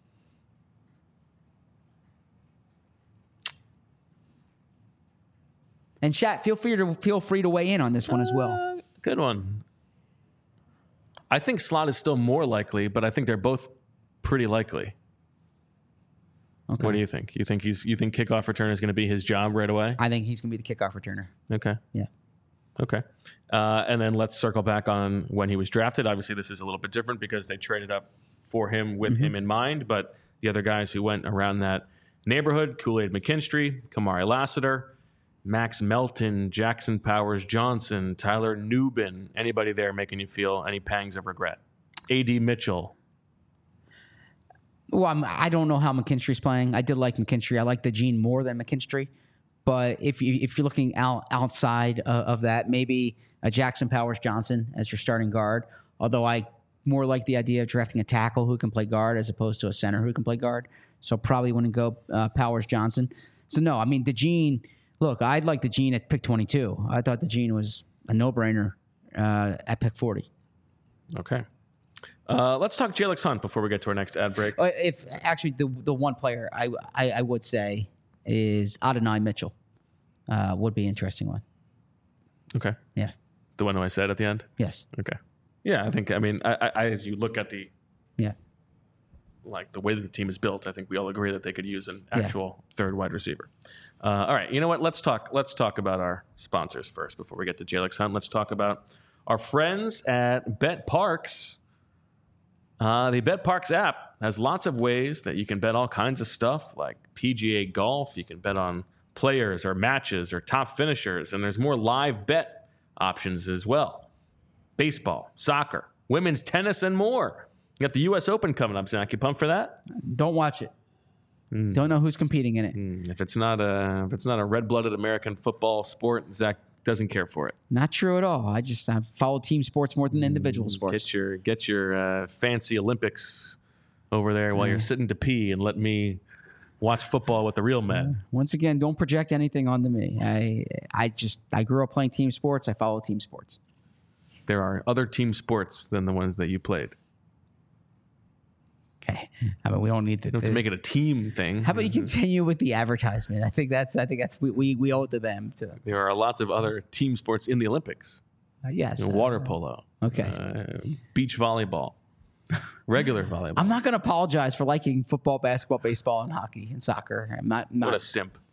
And chat, feel free to feel free to weigh in on this one as well.
Uh, good one. I think slot is still more likely, but I think they're both pretty likely.
Okay.
What do you think? You think he's you think kickoff returner is going to be his job right away?
I think he's going to be the kickoff returner.
Okay.
Yeah.
Okay. Uh, and then let's circle back on when he was drafted. Obviously, this is a little bit different because they traded up for him with mm-hmm. him in mind. But the other guys who went around that neighborhood, Kool-Aid McKinstry, Kamari Lassiter, Max Melton, Jackson Powers Johnson, Tyler Nubin. Anybody there making you feel any pangs of regret? A D Mitchell.
Well, I'm, I don't know how McKinstry's playing. I did like McKinstry. I like DeJean more than McKinstry. But if you if you're looking out outside uh, of that, maybe a Jackson Powers Johnson as your starting guard. Although I more like the idea of drafting a tackle who can play guard as opposed to a center who can play guard. So probably wouldn't go uh, Powers Johnson. So no, I mean DeJean. Look, I'd like DeJean at pick twenty-two. I thought DeJean was a no-brainer uh, at pick forty.
Okay. Uh, let's talk Jalen Hunt before we get to our next ad break.
Uh, if actually the the one player I I, I would say is Adonai Mitchell uh, would be an interesting one.
Okay.
Yeah.
The one who I said at the end?
Yes.
Okay. Yeah, I think, I mean, I, I, as you look at the,
yeah,
like the way that the team is built, I think we all agree that they could use an actual
yeah.
third wide receiver. Uh, all right. You know what? Let's talk, let's talk about our sponsors first before we get to Jalen Hunt. Let's talk about our friends at Bet Parks. Uh, the Bet Parks app has lots of ways that you can bet all kinds of stuff, like P G A golf. You can bet on players or matches or top finishers, and there's more live bet options as well. Baseball, soccer, women's tennis, and more. You got the U S Open coming up, Zach. You pumped for that?
Don't watch it. Mm. Don't know who's competing in it.
Mm. If it's not a if it's not a red-blooded American football sport, Zach doesn't care for it.
Not true at all. I just I follow team sports more than individual sports.
Get your get your uh, fancy Olympics over there while mm. you're sitting to pee and let me watch football with the real men.
Once again, don't project anything onto me. I I just I grew up playing team sports. I follow team sports.
There are other team sports than the ones that you played.
Okay, I mean we don't need to,
you don't have to make it a team thing.
How about you continue with the advertisement? I think that's I think that's we we, we owe it to them too.
There are lots of other team sports in the Olympics.
Uh, yes,
you know, water polo.
Okay,
uh, beach volleyball, regular volleyball.
I'm not going to apologize for liking football, basketball, baseball, and hockey and soccer. I'm not. not
what a simp.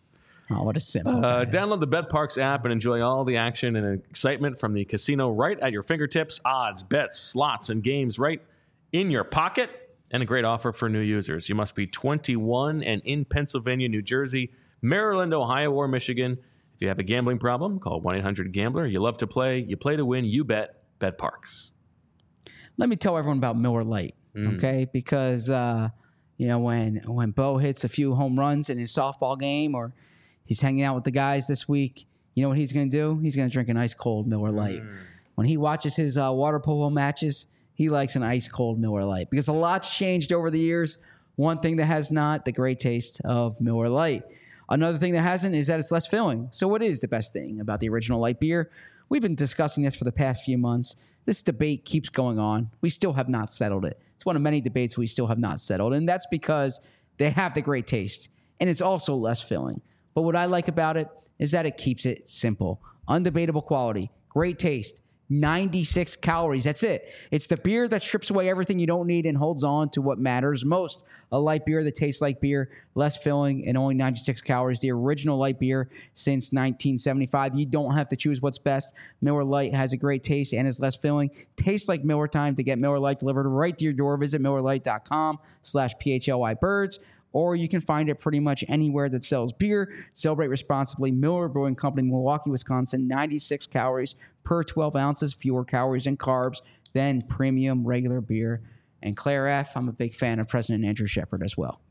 Oh, what a simple.
Uh,
guy.
download the BetParks app and enjoy all the action and excitement from the casino right at your fingertips. Odds, bets, slots, and games right in your pocket. And a great offer for new users. You must be twenty-one and in Pennsylvania, New Jersey, Maryland, Ohio, or Michigan. If you have a gambling problem, call one eight hundred gambler. You love to play. You play to win. You bet. BetParks.
Let me tell everyone about Miller Lite,
Mm.
okay? Because uh, you know when when Bo hits a few home runs in his softball game, or he's hanging out with the guys this week, you know what he's going to do? He's going to drink an ice cold Miller Lite.
Mm.
When he watches his uh, water polo matches, he likes an ice cold Miller Lite because a lot's changed over the years. One thing that has not, the great taste of Miller Lite. Another thing that hasn't is that it's less filling. So what is the best thing about the original light beer? We've been discussing this for the past few months. This debate keeps going on. We still have not settled it. It's one of many debates we still have not settled, and that's because they have the great taste, and it's also less filling. But what I like about it is that it keeps it simple. Undebatable quality, great taste, ninety-six calories. That's it. It's the beer that strips away everything you don't need and holds on to what matters most. A light beer that tastes like beer, less filling, and only ninety-six calories. The original light beer since nineteen seventy-five. You don't have to choose what's best. Miller Lite has a great taste and is less filling. Tastes like Miller time. To get Miller Lite delivered right to your door, visit Miller Lite dot com slash P H L Y birds. Or you can find it pretty much anywhere that sells beer. Celebrate responsibly. Miller Brewing Company, Milwaukee, Wisconsin. ninety-six calories per twelve ounces. Fewer calories and carbs than premium regular beer. And Claire F., I'm a big fan of President Andrew Shepard as well.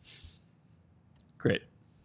Great.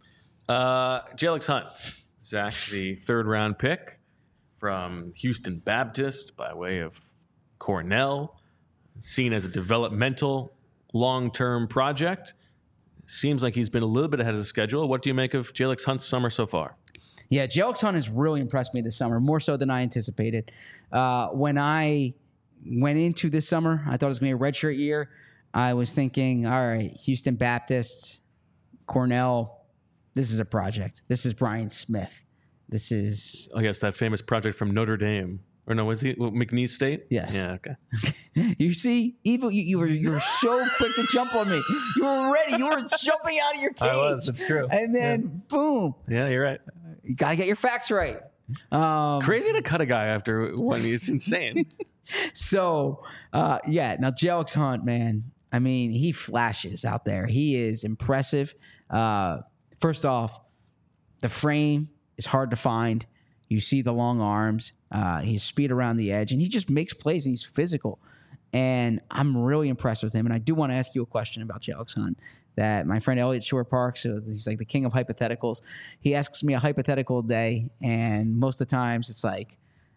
Uh, Jalix Hunt, Zach, the third round pick from Houston Baptist by way of Cornell, seen as a developmental long-term project. Seems like he's been a little bit ahead of the schedule. What do you make of Jalix Hunt's summer so far?
Yeah, Jalix Hunt has really impressed me this summer, more so than I anticipated. Uh, when I went into this summer, I thought it was going to be a redshirt year. I was thinking, all right, Houston Baptist, Cornell, this is a project. This is Brian Smith. This is...
I guess that famous project from Notre Dame. Or no, was he McNeese State?
Yes.
Yeah, okay.
You see, evil. You, you were you were so quick to jump on me. You were ready. You were jumping out of your cage.
I was. It's true.
And then boom.
Yeah, you're right.
You got to get your facts right. Um,
Crazy to cut a guy after one. It's insane.
So uh, yeah. Now Jalix Hunt, man. I mean, he flashes out there. He is impressive. Uh, first off, the frame is hard to find. You see the long arms, uh, his speed around the edge, and he just makes plays, and he's physical. And I'm really impressed with him. And I do want to ask you a question about Jalix Hunt that my friend Elliot Shore Parks, so he's like the king of hypotheticals. He asks me a hypothetical a day, and most of the times it's like,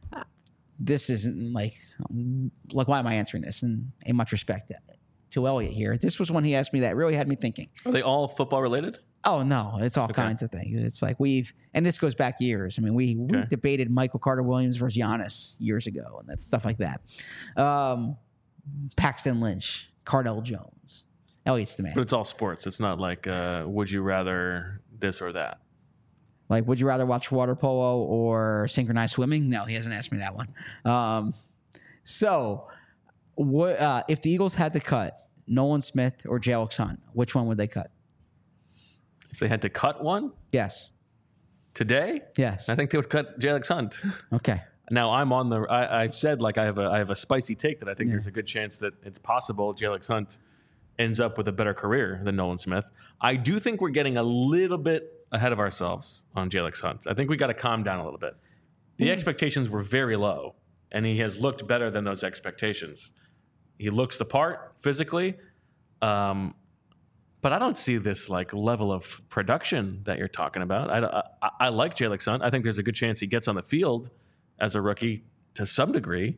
this isn't like, like, why am I answering this? And in much respect to Elliot here, this was one he asked me that really had me thinking.
Are they all football related?
Oh, no, it's all
Okay.
kinds of things. It's like we've, and this goes back years. I mean, we, we
Okay.
debated Michael Carter Williams versus Giannis years ago, and that's stuff like that. Um, Paxton Lynch, Cardell Jones. Elliot's the man.
But it's all sports. It's not like, uh, would you rather this or that?
Like, would you rather watch water polo or synchronized swimming? No, he hasn't asked me that one. Um, so, what uh, if the Eagles had to cut Nolan Smith or Jalix Hunt? Which one would they cut?
If they had to cut one
Yes.
today,
Yes.
I think they would cut Jalix Hunt.
Okay.
Now I'm on the. I, I've said like I have a I have a spicy take that I think there's a good chance that it's possible Jalix Hunt ends up with a better career than Nolan Smith. I do think we're getting a little bit ahead of ourselves on Jalix Hunt. I think we got to calm down a little bit. The expectations were very low, and he has looked better than those expectations. He looks the part physically, um, but I don't see this like level of production that you're talking about. I, I, I like Jalix Hunt. I think there's a good chance he gets on the field as a rookie to some degree,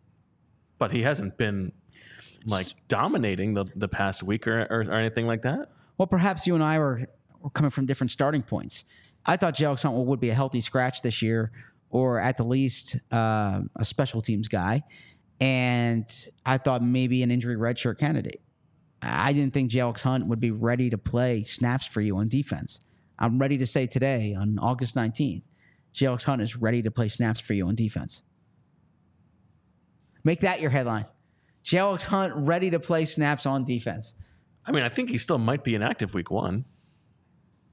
but he hasn't been like dominating the, the past week or, or, or anything like that.
Well, perhaps you and I were, were coming from different starting points. I thought Jalix Hunt would be a healthy scratch this year, or at the least uh, a special teams guy. And I thought maybe an injury redshirt candidate. I didn't think Jalix Hunt would be ready to play snaps for you on defense. I'm ready to say today, on August nineteenth, Jalix Hunt is ready to play snaps for you on defense. Make that your headline. Jalix Hunt ready to play snaps on defense.
I mean, I think he still might be inactive week one.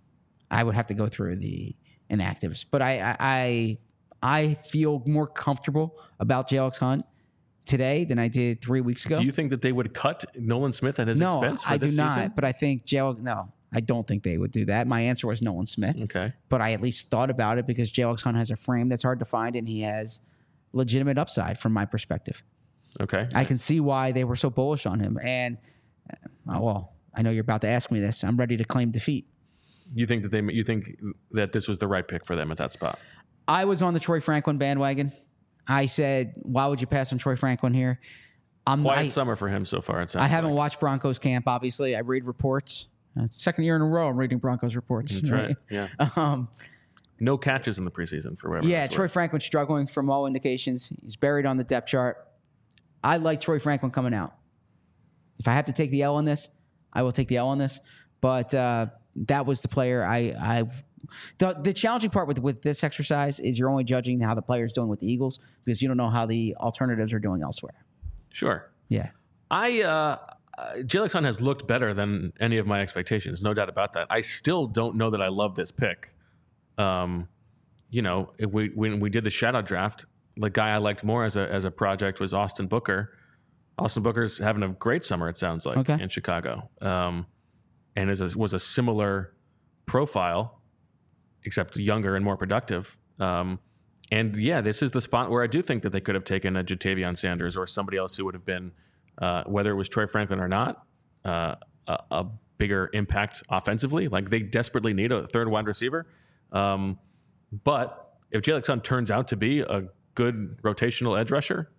I would have to go through the inactives. But I I I, I feel more comfortable about Jalen Hunt today than I did three weeks ago.
Do you think that they would cut Nolan Smith at his
no,
expense for
I
this
do not.
season?
But I think Jalen. No, I don't think they would do that. My answer was Nolan Smith.
Okay.
But I at least thought about it because Jalen Hunt has a frame that's hard to find, and he has legitimate upside from my perspective.
Okay.
I can see why they were so bullish on him. And uh, well, I know you're about to ask me this. I'm ready to claim defeat.
You think that they? You think that this was the right pick for them at that spot?
I was on the Troy Franklin bandwagon. I said, why would you pass on Troy Franklin here? I'm,
Quiet
I,
summer for him so far. It sounds
I haven't
like.
watched Broncos camp, obviously. I read reports. Uh, second year in a row I'm reading Broncos reports.
That's right. Yeah.
Um,
No catches in the preseason for whatever.
yeah,
that's
Troy
worth.
Franklin struggling from all indications. He's buried on the depth chart. I like Troy Franklin coming out. If I have to take the L on this, I will take the L on this. But uh, that was the player I I the, the challenging part with with this exercise is you're only judging how the player's doing with the Eagles because you don't know how the alternatives are doing elsewhere.
Sure.
Yeah.
I uh, uh, Jalen Hunt has looked better than any of my expectations, no doubt about that. I still don't know that I love this pick. Um, you know, if we, when we did the shadow draft, the guy I liked more as a as a project was Austin Booker. Austin Booker's having a great summer, it sounds like,
Okay.
in Chicago, um, and is a, was a similar profile, except younger and more productive. Um, and yeah, this is the spot where I do think that they could have taken a Jatavion Sanders or somebody else who would have been, uh, whether it was Troy Franklin or not, uh, a, a bigger impact offensively. Like they desperately need a third wide receiver. Um, but if Jalen Hunt turns out to be a good rotational edge rusher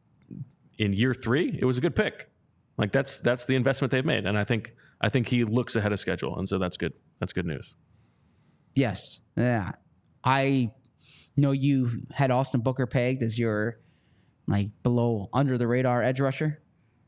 in year three, it was a good pick. Like that's that's the investment they've made, and I think I think he looks ahead of schedule, and so that's good. That's good news.
Yes. Yeah. I know you had Austin Booker pegged as your like below under the radar edge rusher.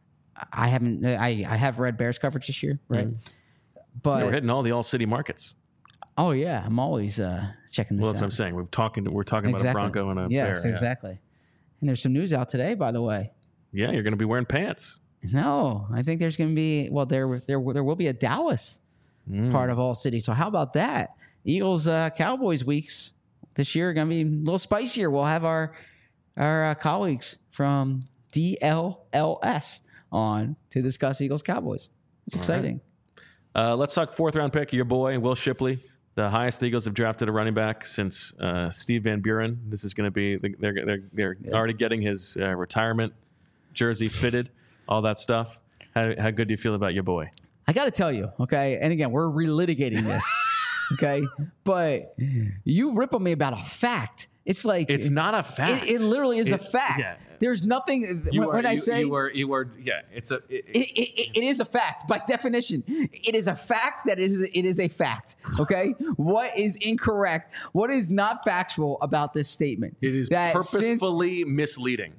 I haven't. I I have read Bears coverage this year, right?
Mm-hmm.
But
Yeah, we're hitting all the all city markets.
oh yeah, I'm always uh, checking this
Well, that's
out.
what I'm saying. We're talking. We're talking
Exactly.
about a Bronco and a
yes,
Bear. Yeah.
exactly. And there's some news out today, by the way.
Yeah, you're going to be wearing pants.
No, I think there's going to be well, there there there will be a Dallas
Mm.
part of All City. So how about that? Eagles uh, Cowboys weeks this year are going to be a little spicier. We'll have our our uh, colleagues from D L L S on to discuss Eagles Cowboys. It's exciting.
Uh, let's talk fourth round pick. Your boy Will Shipley, the highest the Eagles have drafted a running back since uh, Steve Van Buren. This is going to be they're they're they're
Yeah.
already getting his uh, retirement jersey fitted, all that stuff. How how good do you feel about your boy?
I got to tell you, okay, and again, we're relitigating this, okay, but you rip on me about a fact. It's like
It's not a fact.
It, it literally is a
It-
fact.
yeah.
There's nothing
You
when,
are,
when I
you,
say
you were you were yeah. It's a it,
it, it, it is a fact by definition. It is a fact that it is it is a fact. Okay, what is incorrect? What is not factual about this statement?
it is
that since
purposefully misleading.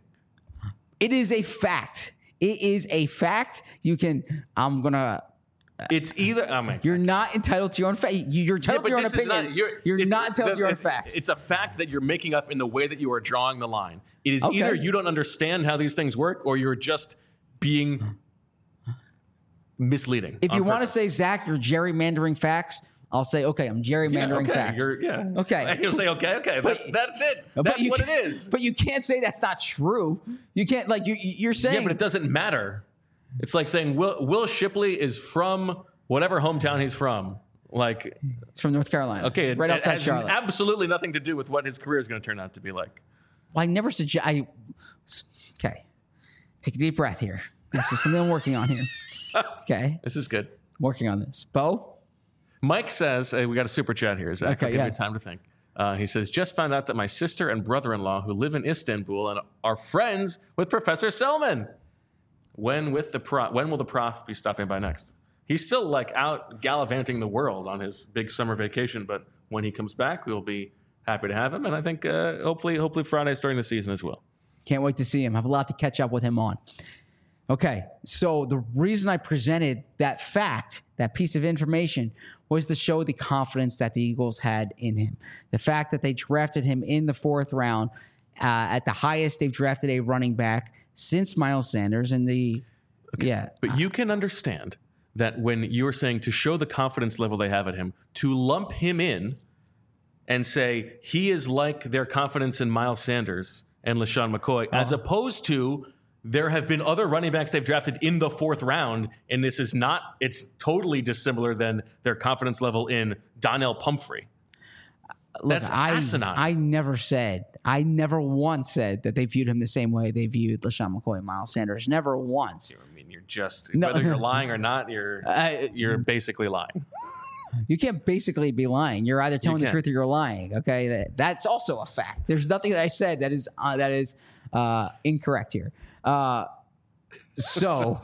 it is a fact. It is a fact. You can. I'm gonna.
It's either oh my
You're not entitled to your own fact. You're
Yeah,
entitled to your own
this is
opinions.
you're
you're
it's-
not entitled
the-
to your own
it-
facts.
It's a fact that you're making up in the way that you are drawing the line. It is
Okay.
either you don't understand how these things work, or you're just being misleading.
If
on
you want to
purpose.
say, Zach, you're gerrymandering facts, I'll say, okay, I'm gerrymandering
okay,
facts.
You're, yeah.
Okay.
And you'll say, okay, okay, that's that's it.
But
That's
you
what it
can't-
is.
But you can't say that's not true. You can't, like, you, you're saying.
Yeah, but it doesn't matter. It's like saying Will Will Shipley is from whatever hometown he's from. Like,
it's from North Carolina.
okay, it,
right
it
outside
has
Charlotte.
absolutely nothing to do with what his career is going to turn out to be like.
Well, I never suggest. I okay. Take a deep breath here. This is something I'm working on here. Okay,
This is good.
working on this. Bo,
Mike says, hey, we got a super chat here, Zach.
Okay,
I'll give
yes.
you time to think. Uh, he says, just found out that my sister and brother-in-law who live in Istanbul and are friends with Professor Selman. When with the pro- when will the prof be stopping by next? He's still like out gallivanting the world on his big summer vacation, but when he comes back, we'll be happy to have him. And I think uh, hopefully, hopefully Fridays during the season as well.
can't wait to see him. I have a lot to catch up with him on. Okay, so the reason I presented that fact, that piece of information, was to show the confidence that the Eagles had in him. The fact that they drafted him in the fourth round, uh, at the highest they've drafted a running back since Miles Sanders, and the yeah,
But you can understand that when you were saying to show the confidence level they have at him, to lump him in and say he is like their confidence in Miles Sanders and LaShawn McCoy, uh-huh. as opposed to there have been other running backs they've drafted in the fourth round, and this is not, it's totally dissimilar than their confidence level in Donnell Pumphrey.
Look,
That's
I,
asinine.
I never said, I never once said that they viewed him the same way they viewed LaShawn McCoy and Miles Sanders. Never once.
I mean, you're just,
No.
whether you're lying or not, you're
Uh,
you're basically lying.
You can't basically be lying. You're either telling
You
the
can.
truth or you're lying. Okay, that, that's also a fact. There's nothing that I said that is uh, that is uh, incorrect here. Uh, so,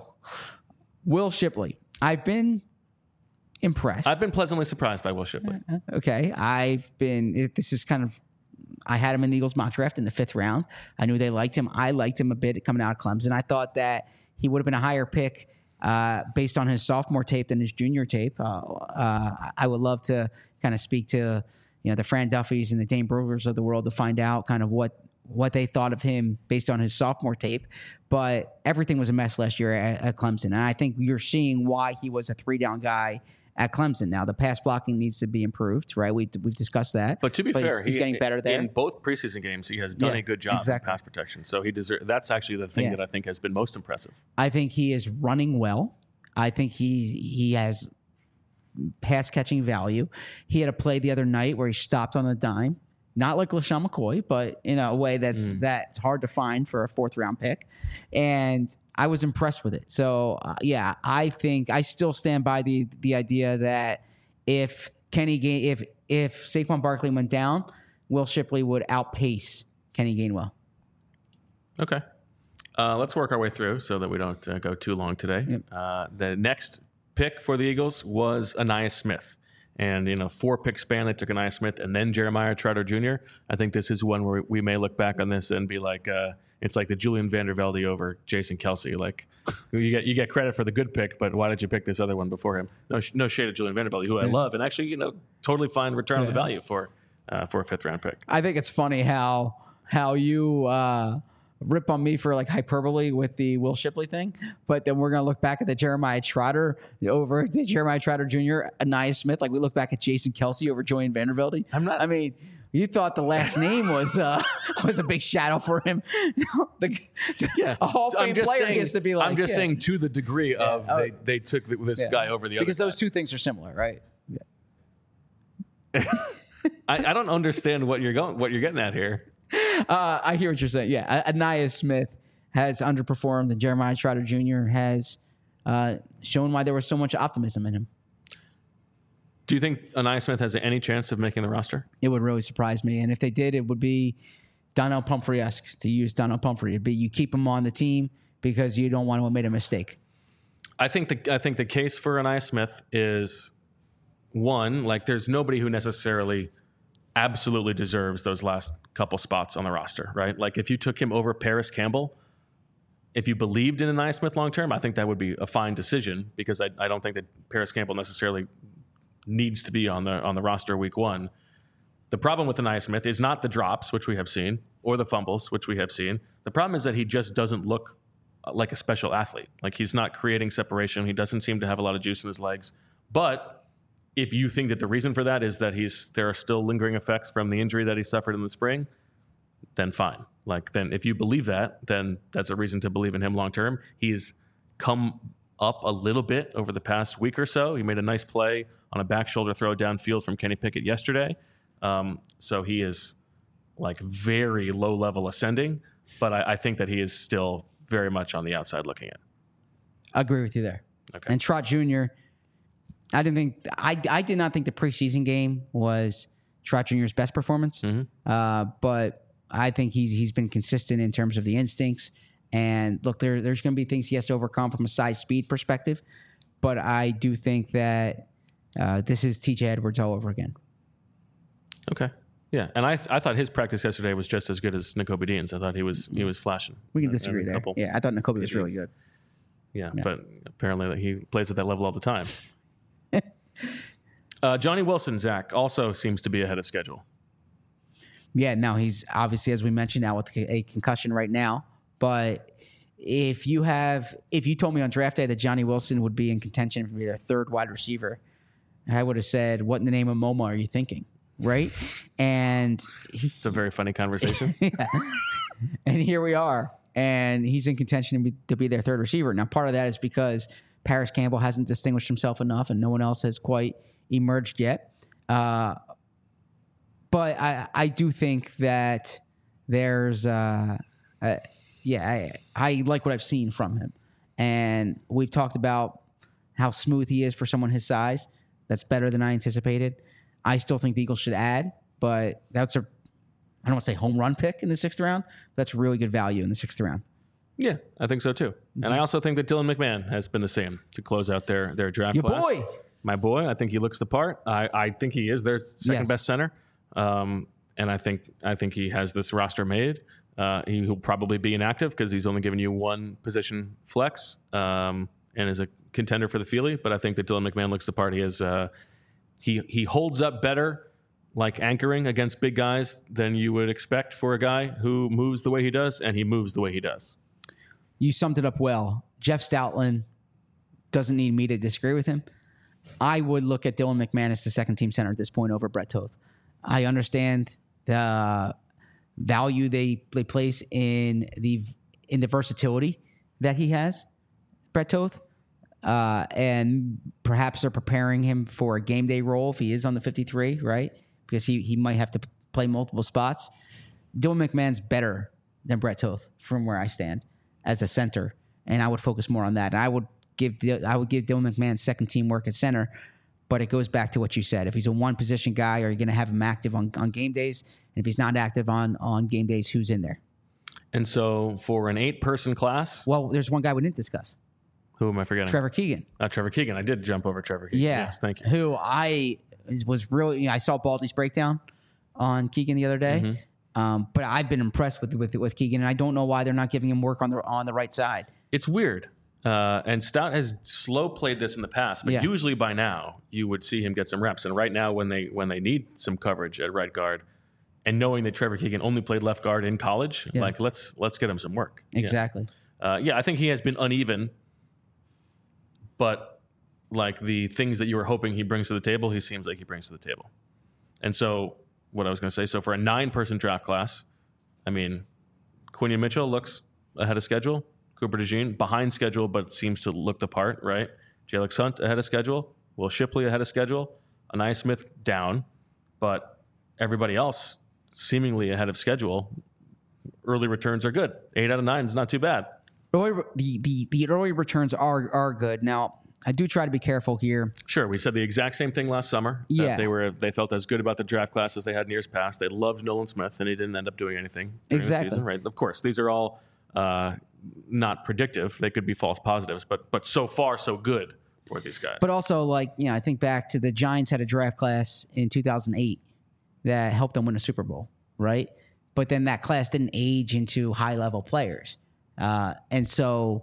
Will Shipley, I've been impressed.
I've been pleasantly surprised by Will Shipley.
Okay, I've been. It, this is kind of. I had him in the Eagles mock draft in the fifth round. I knew they liked him. I liked him a bit coming out of Clemson. I thought that he would have been a higher pick uh, based on his sophomore tape than his junior tape. Uh, uh, I would love to kind of speak to you know the Fran Duffys and the Dane Brugers of the world to find out kind of what what they thought of him based on his sophomore tape. But everything was a mess last year at, at Clemson, and I think you're seeing why he was a three down guy at Clemson. Now, the pass blocking needs to be improved, right? We, we've discussed that.
But to be
But
fair,
he's, he's
he-
getting better there.
In both preseason games, he has done
Yeah,
a good job
exactly.
in pass protection. So he deserves. That's actually the thing
Yeah.
that I think has been most impressive.
I think he is running well. I think he he has pass catching value. He had a play the other night where he stopped on a dime, not like LaShawn McCoy, but in a way that's
Mm.
that's hard to find for a fourth round pick. And I was impressed with it. So uh, yeah, I think I still stand by the the idea that if Kenny Gain if if Saquon Barkley went down, Will Shipley would outpace Kenny Gainwell.
Okay. Uh, let's work our way through so that we don't uh, go too long today.
Yep.
Uh, the next pick for the Eagles was Ainias Smith. And in a four-pick span, they took Ainias Smith and then Jeremiah Trotter Junior I think this is one where we may look back on this and be like, uh, it's like the Julian Vandervelde over Jason Kelsey. Like, you get you get credit for the good pick, but why did you pick this other one before him? No, sh- no shade of Julian Vandervelde, who I
Yeah.
love, and actually, you know, totally fine return on the
Yeah.
value for uh, for a fifth-round pick.
I think it's funny how how you uh, rip on me for like hyperbole with the Will Shipley thing, but then we're gonna look back at the Jeremiah Trotter over the Jeremiah Trotter Junior, Ainias Smith, like we look back at Jason Kelsey over Julian Vandervelde.
I'm not-
I mean, you thought the last name was uh, was a big shadow for him. the,
Yeah,
a Hall of
I'm
Fame
just
player
saying,
gets to be like.
I'm just
yeah.
saying to the degree of
Oh.
they, they took the, this
Yeah.
guy over the
because
other
those two things are similar, right?
I, I don't understand what you're going, what you're getting at here.
Uh, I hear what you're saying. Yeah, Ainias Smith has underperformed, and Jeremiah Trotter Junior has uh, shown why there was so much optimism in him.
Do you think Ainias Smith has any chance of making the roster?
It would really surprise me, and if they did, it would be Donnell Pumphrey-esque. To use Donnell Pumphrey, it'd be you keep him on the team because you don't want to have made a mistake.
I think the I think the case for Ainias Smith is one, like there's nobody who necessarily absolutely deserves those last couple spots on the roster, right? Like if you took him over Paris Campbell, if you believed in Ainias Smith long term, I think that would be a fine decision because I, I don't think that Paris Campbell necessarily needs to be on the on the roster week one. The problem with Ainias Smith is not the drops, which we have seen, or the fumbles, which we have seen. The problem is that he just doesn't look like a special athlete. Like he's not creating separation. He doesn't seem to have a lot of juice in his legs. But if you think that the reason for that is that he's there are still lingering effects from the injury that he suffered in the spring, then fine. Like then if you believe that, then that's a reason to believe in him long term. He's come up a little bit over the past week or so. He made a nice play on a back shoulder throw downfield from Kenny Pickett yesterday. Um, so he is like very low level ascending, but I, I think that he is still very much on the outside looking in.
I agree with you there.
Okay.
And Trot Junior, I didn't think I I did not think the preseason game was Trot Junior's best performance,
Mhm.
uh, but I think he's he's been consistent in terms of the instincts. And look, there there's going to be things he has to overcome from a size speed perspective, but I do think that uh, this is T J Edwards all over again.
Okay. Yeah, and I I thought his practice yesterday was just as good as Nakobe Dean's. I thought he was he was flashing.
We can
uh,
disagree
every
there.
couple.
Yeah, I thought Nakobe was really
It is.
good.
Yeah,
Yeah.
but apparently he plays at that level all the time. uh, Johnny Wilson, Zach, also seems to be ahead of schedule.
Yeah, now he's obviously, as we mentioned, now with a concussion right now, but if you have, if you told me on draft day that Johnny Wilson would be in contention for their third wide receiver, I would have said, what in the name of MoMA are you thinking? Right? And he,
It's a very funny conversation.
yeah. And here we are. And he's in contention to be, to be their third receiver. Now, part of that is because Paris Campbell hasn't distinguished himself enough and no one else has quite emerged yet. Uh, but I, I do think that there's, uh, uh, yeah, I, I like what I've seen from him. And we've talked about how smooth he is for someone his size. That's better than I anticipated. I still think the Eagles should add, but that's a, I don't want to say home run pick in the sixth round. But that's really good value in the sixth round.
Yeah, I think so too. Mm-hmm. And I also think that Dylan McMahon has been the same to close out their, their draft
Your
class.
boy.
My boy. I think he looks the part. I, I think he is their second
Yes.
best center. Um, and I think I think he has this roster made. Uh, he will probably be inactive because he's only given you one position flex um, and is a contender for the Feely. But I think that Dylan McMahon looks the part. He is uh, he he holds up better, like anchoring against big guys, than you would expect for a guy who moves the way he does, and he moves the way he does.
You summed it up well. Jeff Stoutland doesn't need me to disagree with him. I would look at Dylan McMahon as the second team center at this point over Brett Toth. I understand the value they, they place in the in the versatility that he has, Brett Toth, uh, and perhaps they're preparing him for a game day role if he is on the fifty-three, right? Because he, he might have to play multiple spots. Dylan McMahon's better than Brett Toth from where I stand as a center, and I would focus more on that. And I would give I would give Dylan McMahon second team work at center, but it goes back to what you said. If he's a one position guy, are you going to have him active on, on game days? And if he's not active on, on game days, who's in there?
And so for an eight person class,
Well, there's one guy we didn't discuss.
who am I forgetting?
Trevor Keegan.
Uh, Trevor Keegan. I did jump over Trevor Keegan.
Yeah.
Yes, thank you.
Who I was really, you know, I saw Baldy's breakdown on Keegan the other day.
Mm-hmm.
Um, but I've been impressed with, with with Keegan, and I don't know why they're not giving him work on the on the right side.
It's weird. Uh, and Stout has slow played this in the past, but
Yeah.
usually by now you would see him get some reps. And right now, when they when they need some coverage at right guard, and knowing that Trevor Keegan only played left guard in college,
Yeah.
like let's let's get him some work.
Exactly.
Yeah. Uh, yeah, I think he has been uneven, but like the things that you were hoping he brings to the table, he seems like he brings to the table. And so, what I was going to say, so for a nine-person draft class, I mean, Quinion Mitchell looks ahead of schedule. Cooper DeJean behind schedule, but seems to look the part, right? Jalex Hunt ahead of schedule. Will Shipley ahead of schedule. Anaya Smith down, but everybody else seemingly ahead of schedule. Early returns are good. Eight out of nine is not too bad.
Early, the, the the early returns are are good. Now, I do try to be careful here.
Sure, we said the exact same thing last summer. that
Yeah.
they were they felt as good about the draft class as they had in years past. They loved Nolan Smith, and he didn't end up doing anything during
Exactly.
the season, right? Of course, these are all uh, not predictive. They could be false positives, but but so far so good for these guys.
But also, like, you know, I think back to the Giants had a draft class in two thousand eight that helped them win a Super Bowl, right? But then that class didn't age into high-level players. Uh, and so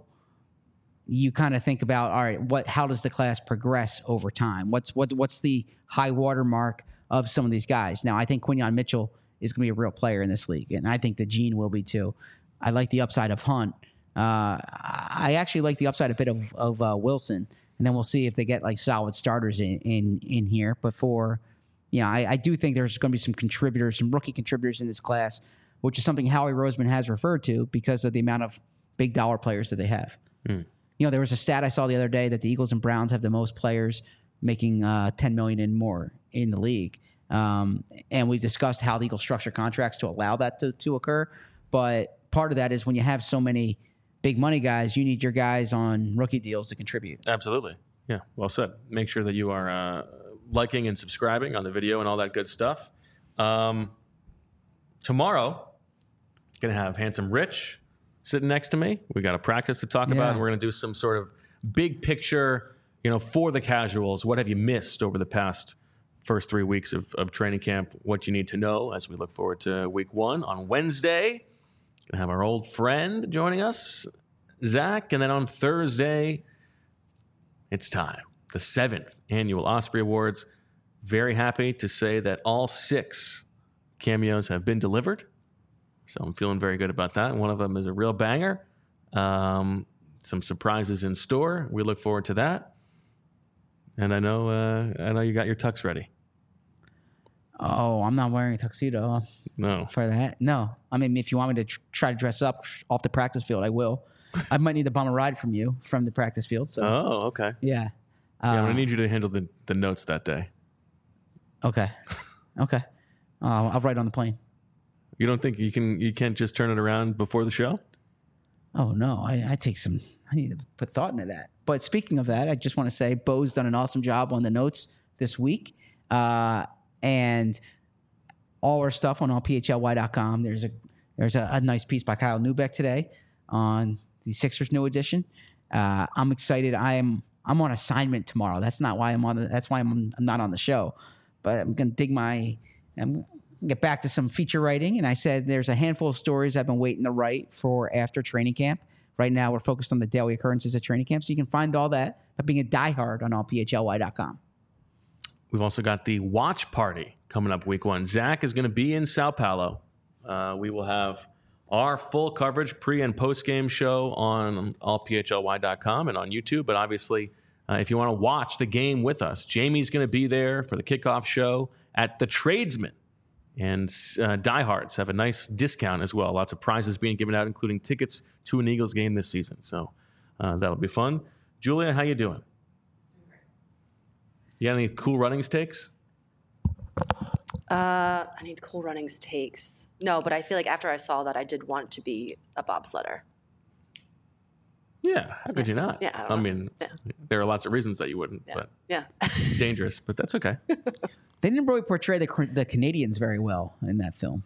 you kind of think about, all right, what? How does the class progress over time? What's what, What's the high water mark of some of these guys? Now, I think Quinion Mitchell is going to be a real player in this league, and I think that Gene will be too. I like the upside of Hunt. Uh, I actually like the upside a bit of, of uh, Wilson, and then we'll see if they get like solid starters in in, in here. But for, you know, I, I do think there's going to be some contributors, some rookie contributors in this class, which is something Howie Roseman has referred to because of the amount of big dollar players that they have.
Mm.
You know, there was a stat I saw the other day that the Eagles and Browns have the most players making uh, ten million dollars and more in the league. Um, and we discussed how the Eagles structure contracts to allow that to, to occur. But part of that is when you have so many big money guys, you need your guys on rookie deals to contribute.
Absolutely. Yeah, well said. Make sure that you are uh, liking and subscribing on the video and all that good stuff. Um, tomorrow, going to have Handsome Rich sitting next to me. We got a practice to talk
Yeah.
about, and we're going to do some sort of big picture, you know, for the casuals. What have you missed over the past first three weeks of, of training camp? What you need to know as we look forward to week one on Wednesday. Going to have our old friend joining us, Zach, and then on Thursday, it's time. The seventh annual Osprey Awards. Very happy to say that all six cameos have been delivered. So I'm feeling very good about that. One of them is a real banger. Um, some surprises in store. We look forward to that. And I know, uh, I know you got your tux ready.
Oh, I'm not wearing a tuxedo
No.
for that. No. I mean, if you want me to tr- try to dress up off the practice field, I will. I might need to bum a ride from you from the practice field. So,
Oh, okay.
yeah. Uh,
Yeah, I'm gonna need you to handle the, the notes that day.
Okay. Okay. Uh, I'll write on the plane.
You don't think you can? You can't just turn it around before the show?
Oh, no. I, I take some, I need to put thought into that. But speaking of that, I just want to say Bo's done an awesome job on the notes this week. Uh, and all our stuff on all P H L Y dot com. There's a there's a, a nice piece by Kyle Neubeck today on the Sixers new edition. Uh, I'm excited. I am I'm on assignment tomorrow. That's not why I'm on. The, that's why I'm, I'm not on the show. But I'm gonna dig my. I'm gonna get back to some feature writing. And I said there's a handful of stories I've been waiting to write for after training camp. Right now we're focused on the daily occurrences at training camp. So you can find all that by being a diehard on all P H L Y dot com.
We've also got the watch party coming up week one. Zach is going to be in Sao Paulo. Uh, we will have our full coverage pre and post game show on all P H L Y dot com and on YouTube. But obviously, uh, if you want to watch the game with us, Jamie's going to be there for the kickoff show at the Tradesman. And uh, diehards have a nice discount as well. Lots of prizes being given out, including tickets to an Eagles game this season. So uh, that'll be fun. Julia, how you doing? You got any cool runnings takes?
Uh, I need cool runnings takes. No, but I feel like after I saw that, I did want to be a bobsledder.
Yeah, how could you not?
Yeah, I don't
I
know.
mean,
Yeah.
there are lots of reasons that you wouldn't,
Yeah.
but
Yeah.
dangerous, but that's okay.
They didn't really portray the the Canadians very well in that film.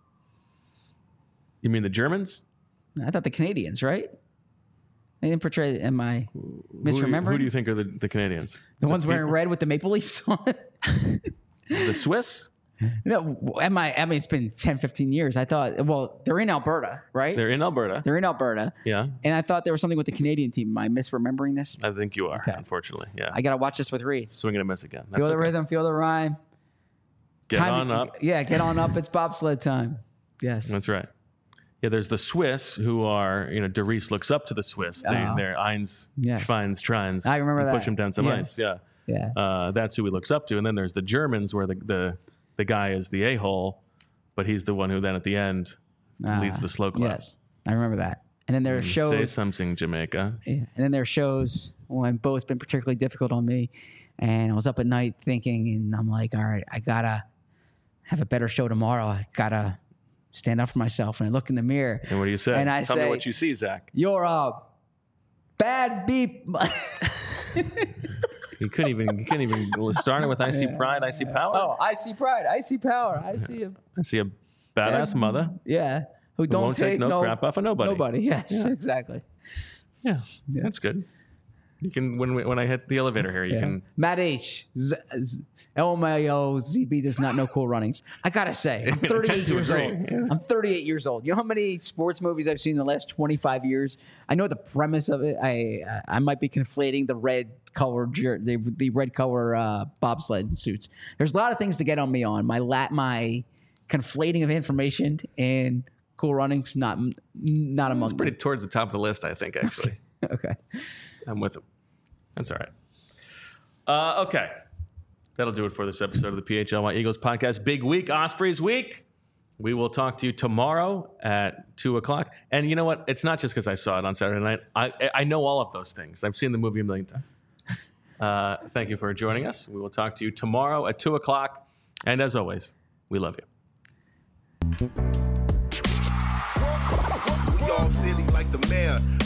You mean the Germans?
I thought the Canadians, right? They didn't portray. Am I
Who,
misremembering?
who do you think are the, the Canadians?
the ones wearing
people?
red with the maple leaves on it?
The Swiss?
No, am I? I mean, it's been ten, fifteen years. I thought. Well, they're in Alberta, right?
They're in Alberta.
They're in Alberta,
Yeah,
and I thought there was something with the Canadian team. Am I misremembering this?
I think you are,
Okay.
unfortunately. Yeah.
I got to watch this with Reed.
Swing and a miss again. That's
Feel the
okay.
rhythm, feel the rhyme.
Get
Time-
on up.
Yeah, get on up. It's bobsled time. Yes.
That's right. Yeah, there's the Swiss who are, you know, Derice looks up to the Swiss. They,
Oh.
They're Eins,
Yes.
Schweins, Trines.
I remember
and
that.
Push them down some
Yes.
ice. Yeah.
Yeah.
Uh, that's who he looks up to. And then there's the Germans where the, the, the guy is the a-hole, but he's the one who then at the end leads
Ah,
the slow clap.
Yes, I remember that. And then there are
Say
shows.
something, Jamaica.
Yeah. And then there are shows when Bo's been particularly difficult on me, and I was up at night thinking, and I'm like, all right, I gotta have a better show tomorrow. I gotta stand up for myself. And I look in the mirror,
And what do you say?
And I
Tell
say-
me what you see, Zach.
you're a bad beep.
You couldn't even you couldn't even start it with I see pride, I see power.
Oh, I see pride. I see power. I see a
I see a badass mother
yeah who
who
don't
won't take, no, crap off of nobody.
Nobody. Yes, exactly.
Yeah, that's good. You can when we, when I hit the elevator here, you
Yeah.
can.
Matt H. Z- Z- L M A O Z B does not know cool runnings. I gotta say, I'm
I tend
thirty-eight
to
years
agree.
old. I'm thirty-eight years old. You know how many sports movies I've seen in the last twenty-five years? I know the premise of it. I I might be conflating the red color jer- the the red color uh, bobsled suits. There's a lot of things to get on me on. My lat my conflating of information and cool runnings not not among
It's pretty towards the top of the list, I think. Actually,
them. Okay.
I'm with him. That's all right. Uh, okay, that'll do it for this episode of the P H L Y Eagles podcast. Big week, Ospreys week. We will talk to you tomorrow at two o'clock. And you know what? It's not just because I saw it on Saturday night. I I know all of those things. I've seen the movie a million times. Uh, thank you for joining us. We will talk to you tomorrow at two o'clock. And as always, we love you.
We all silly like the mayor.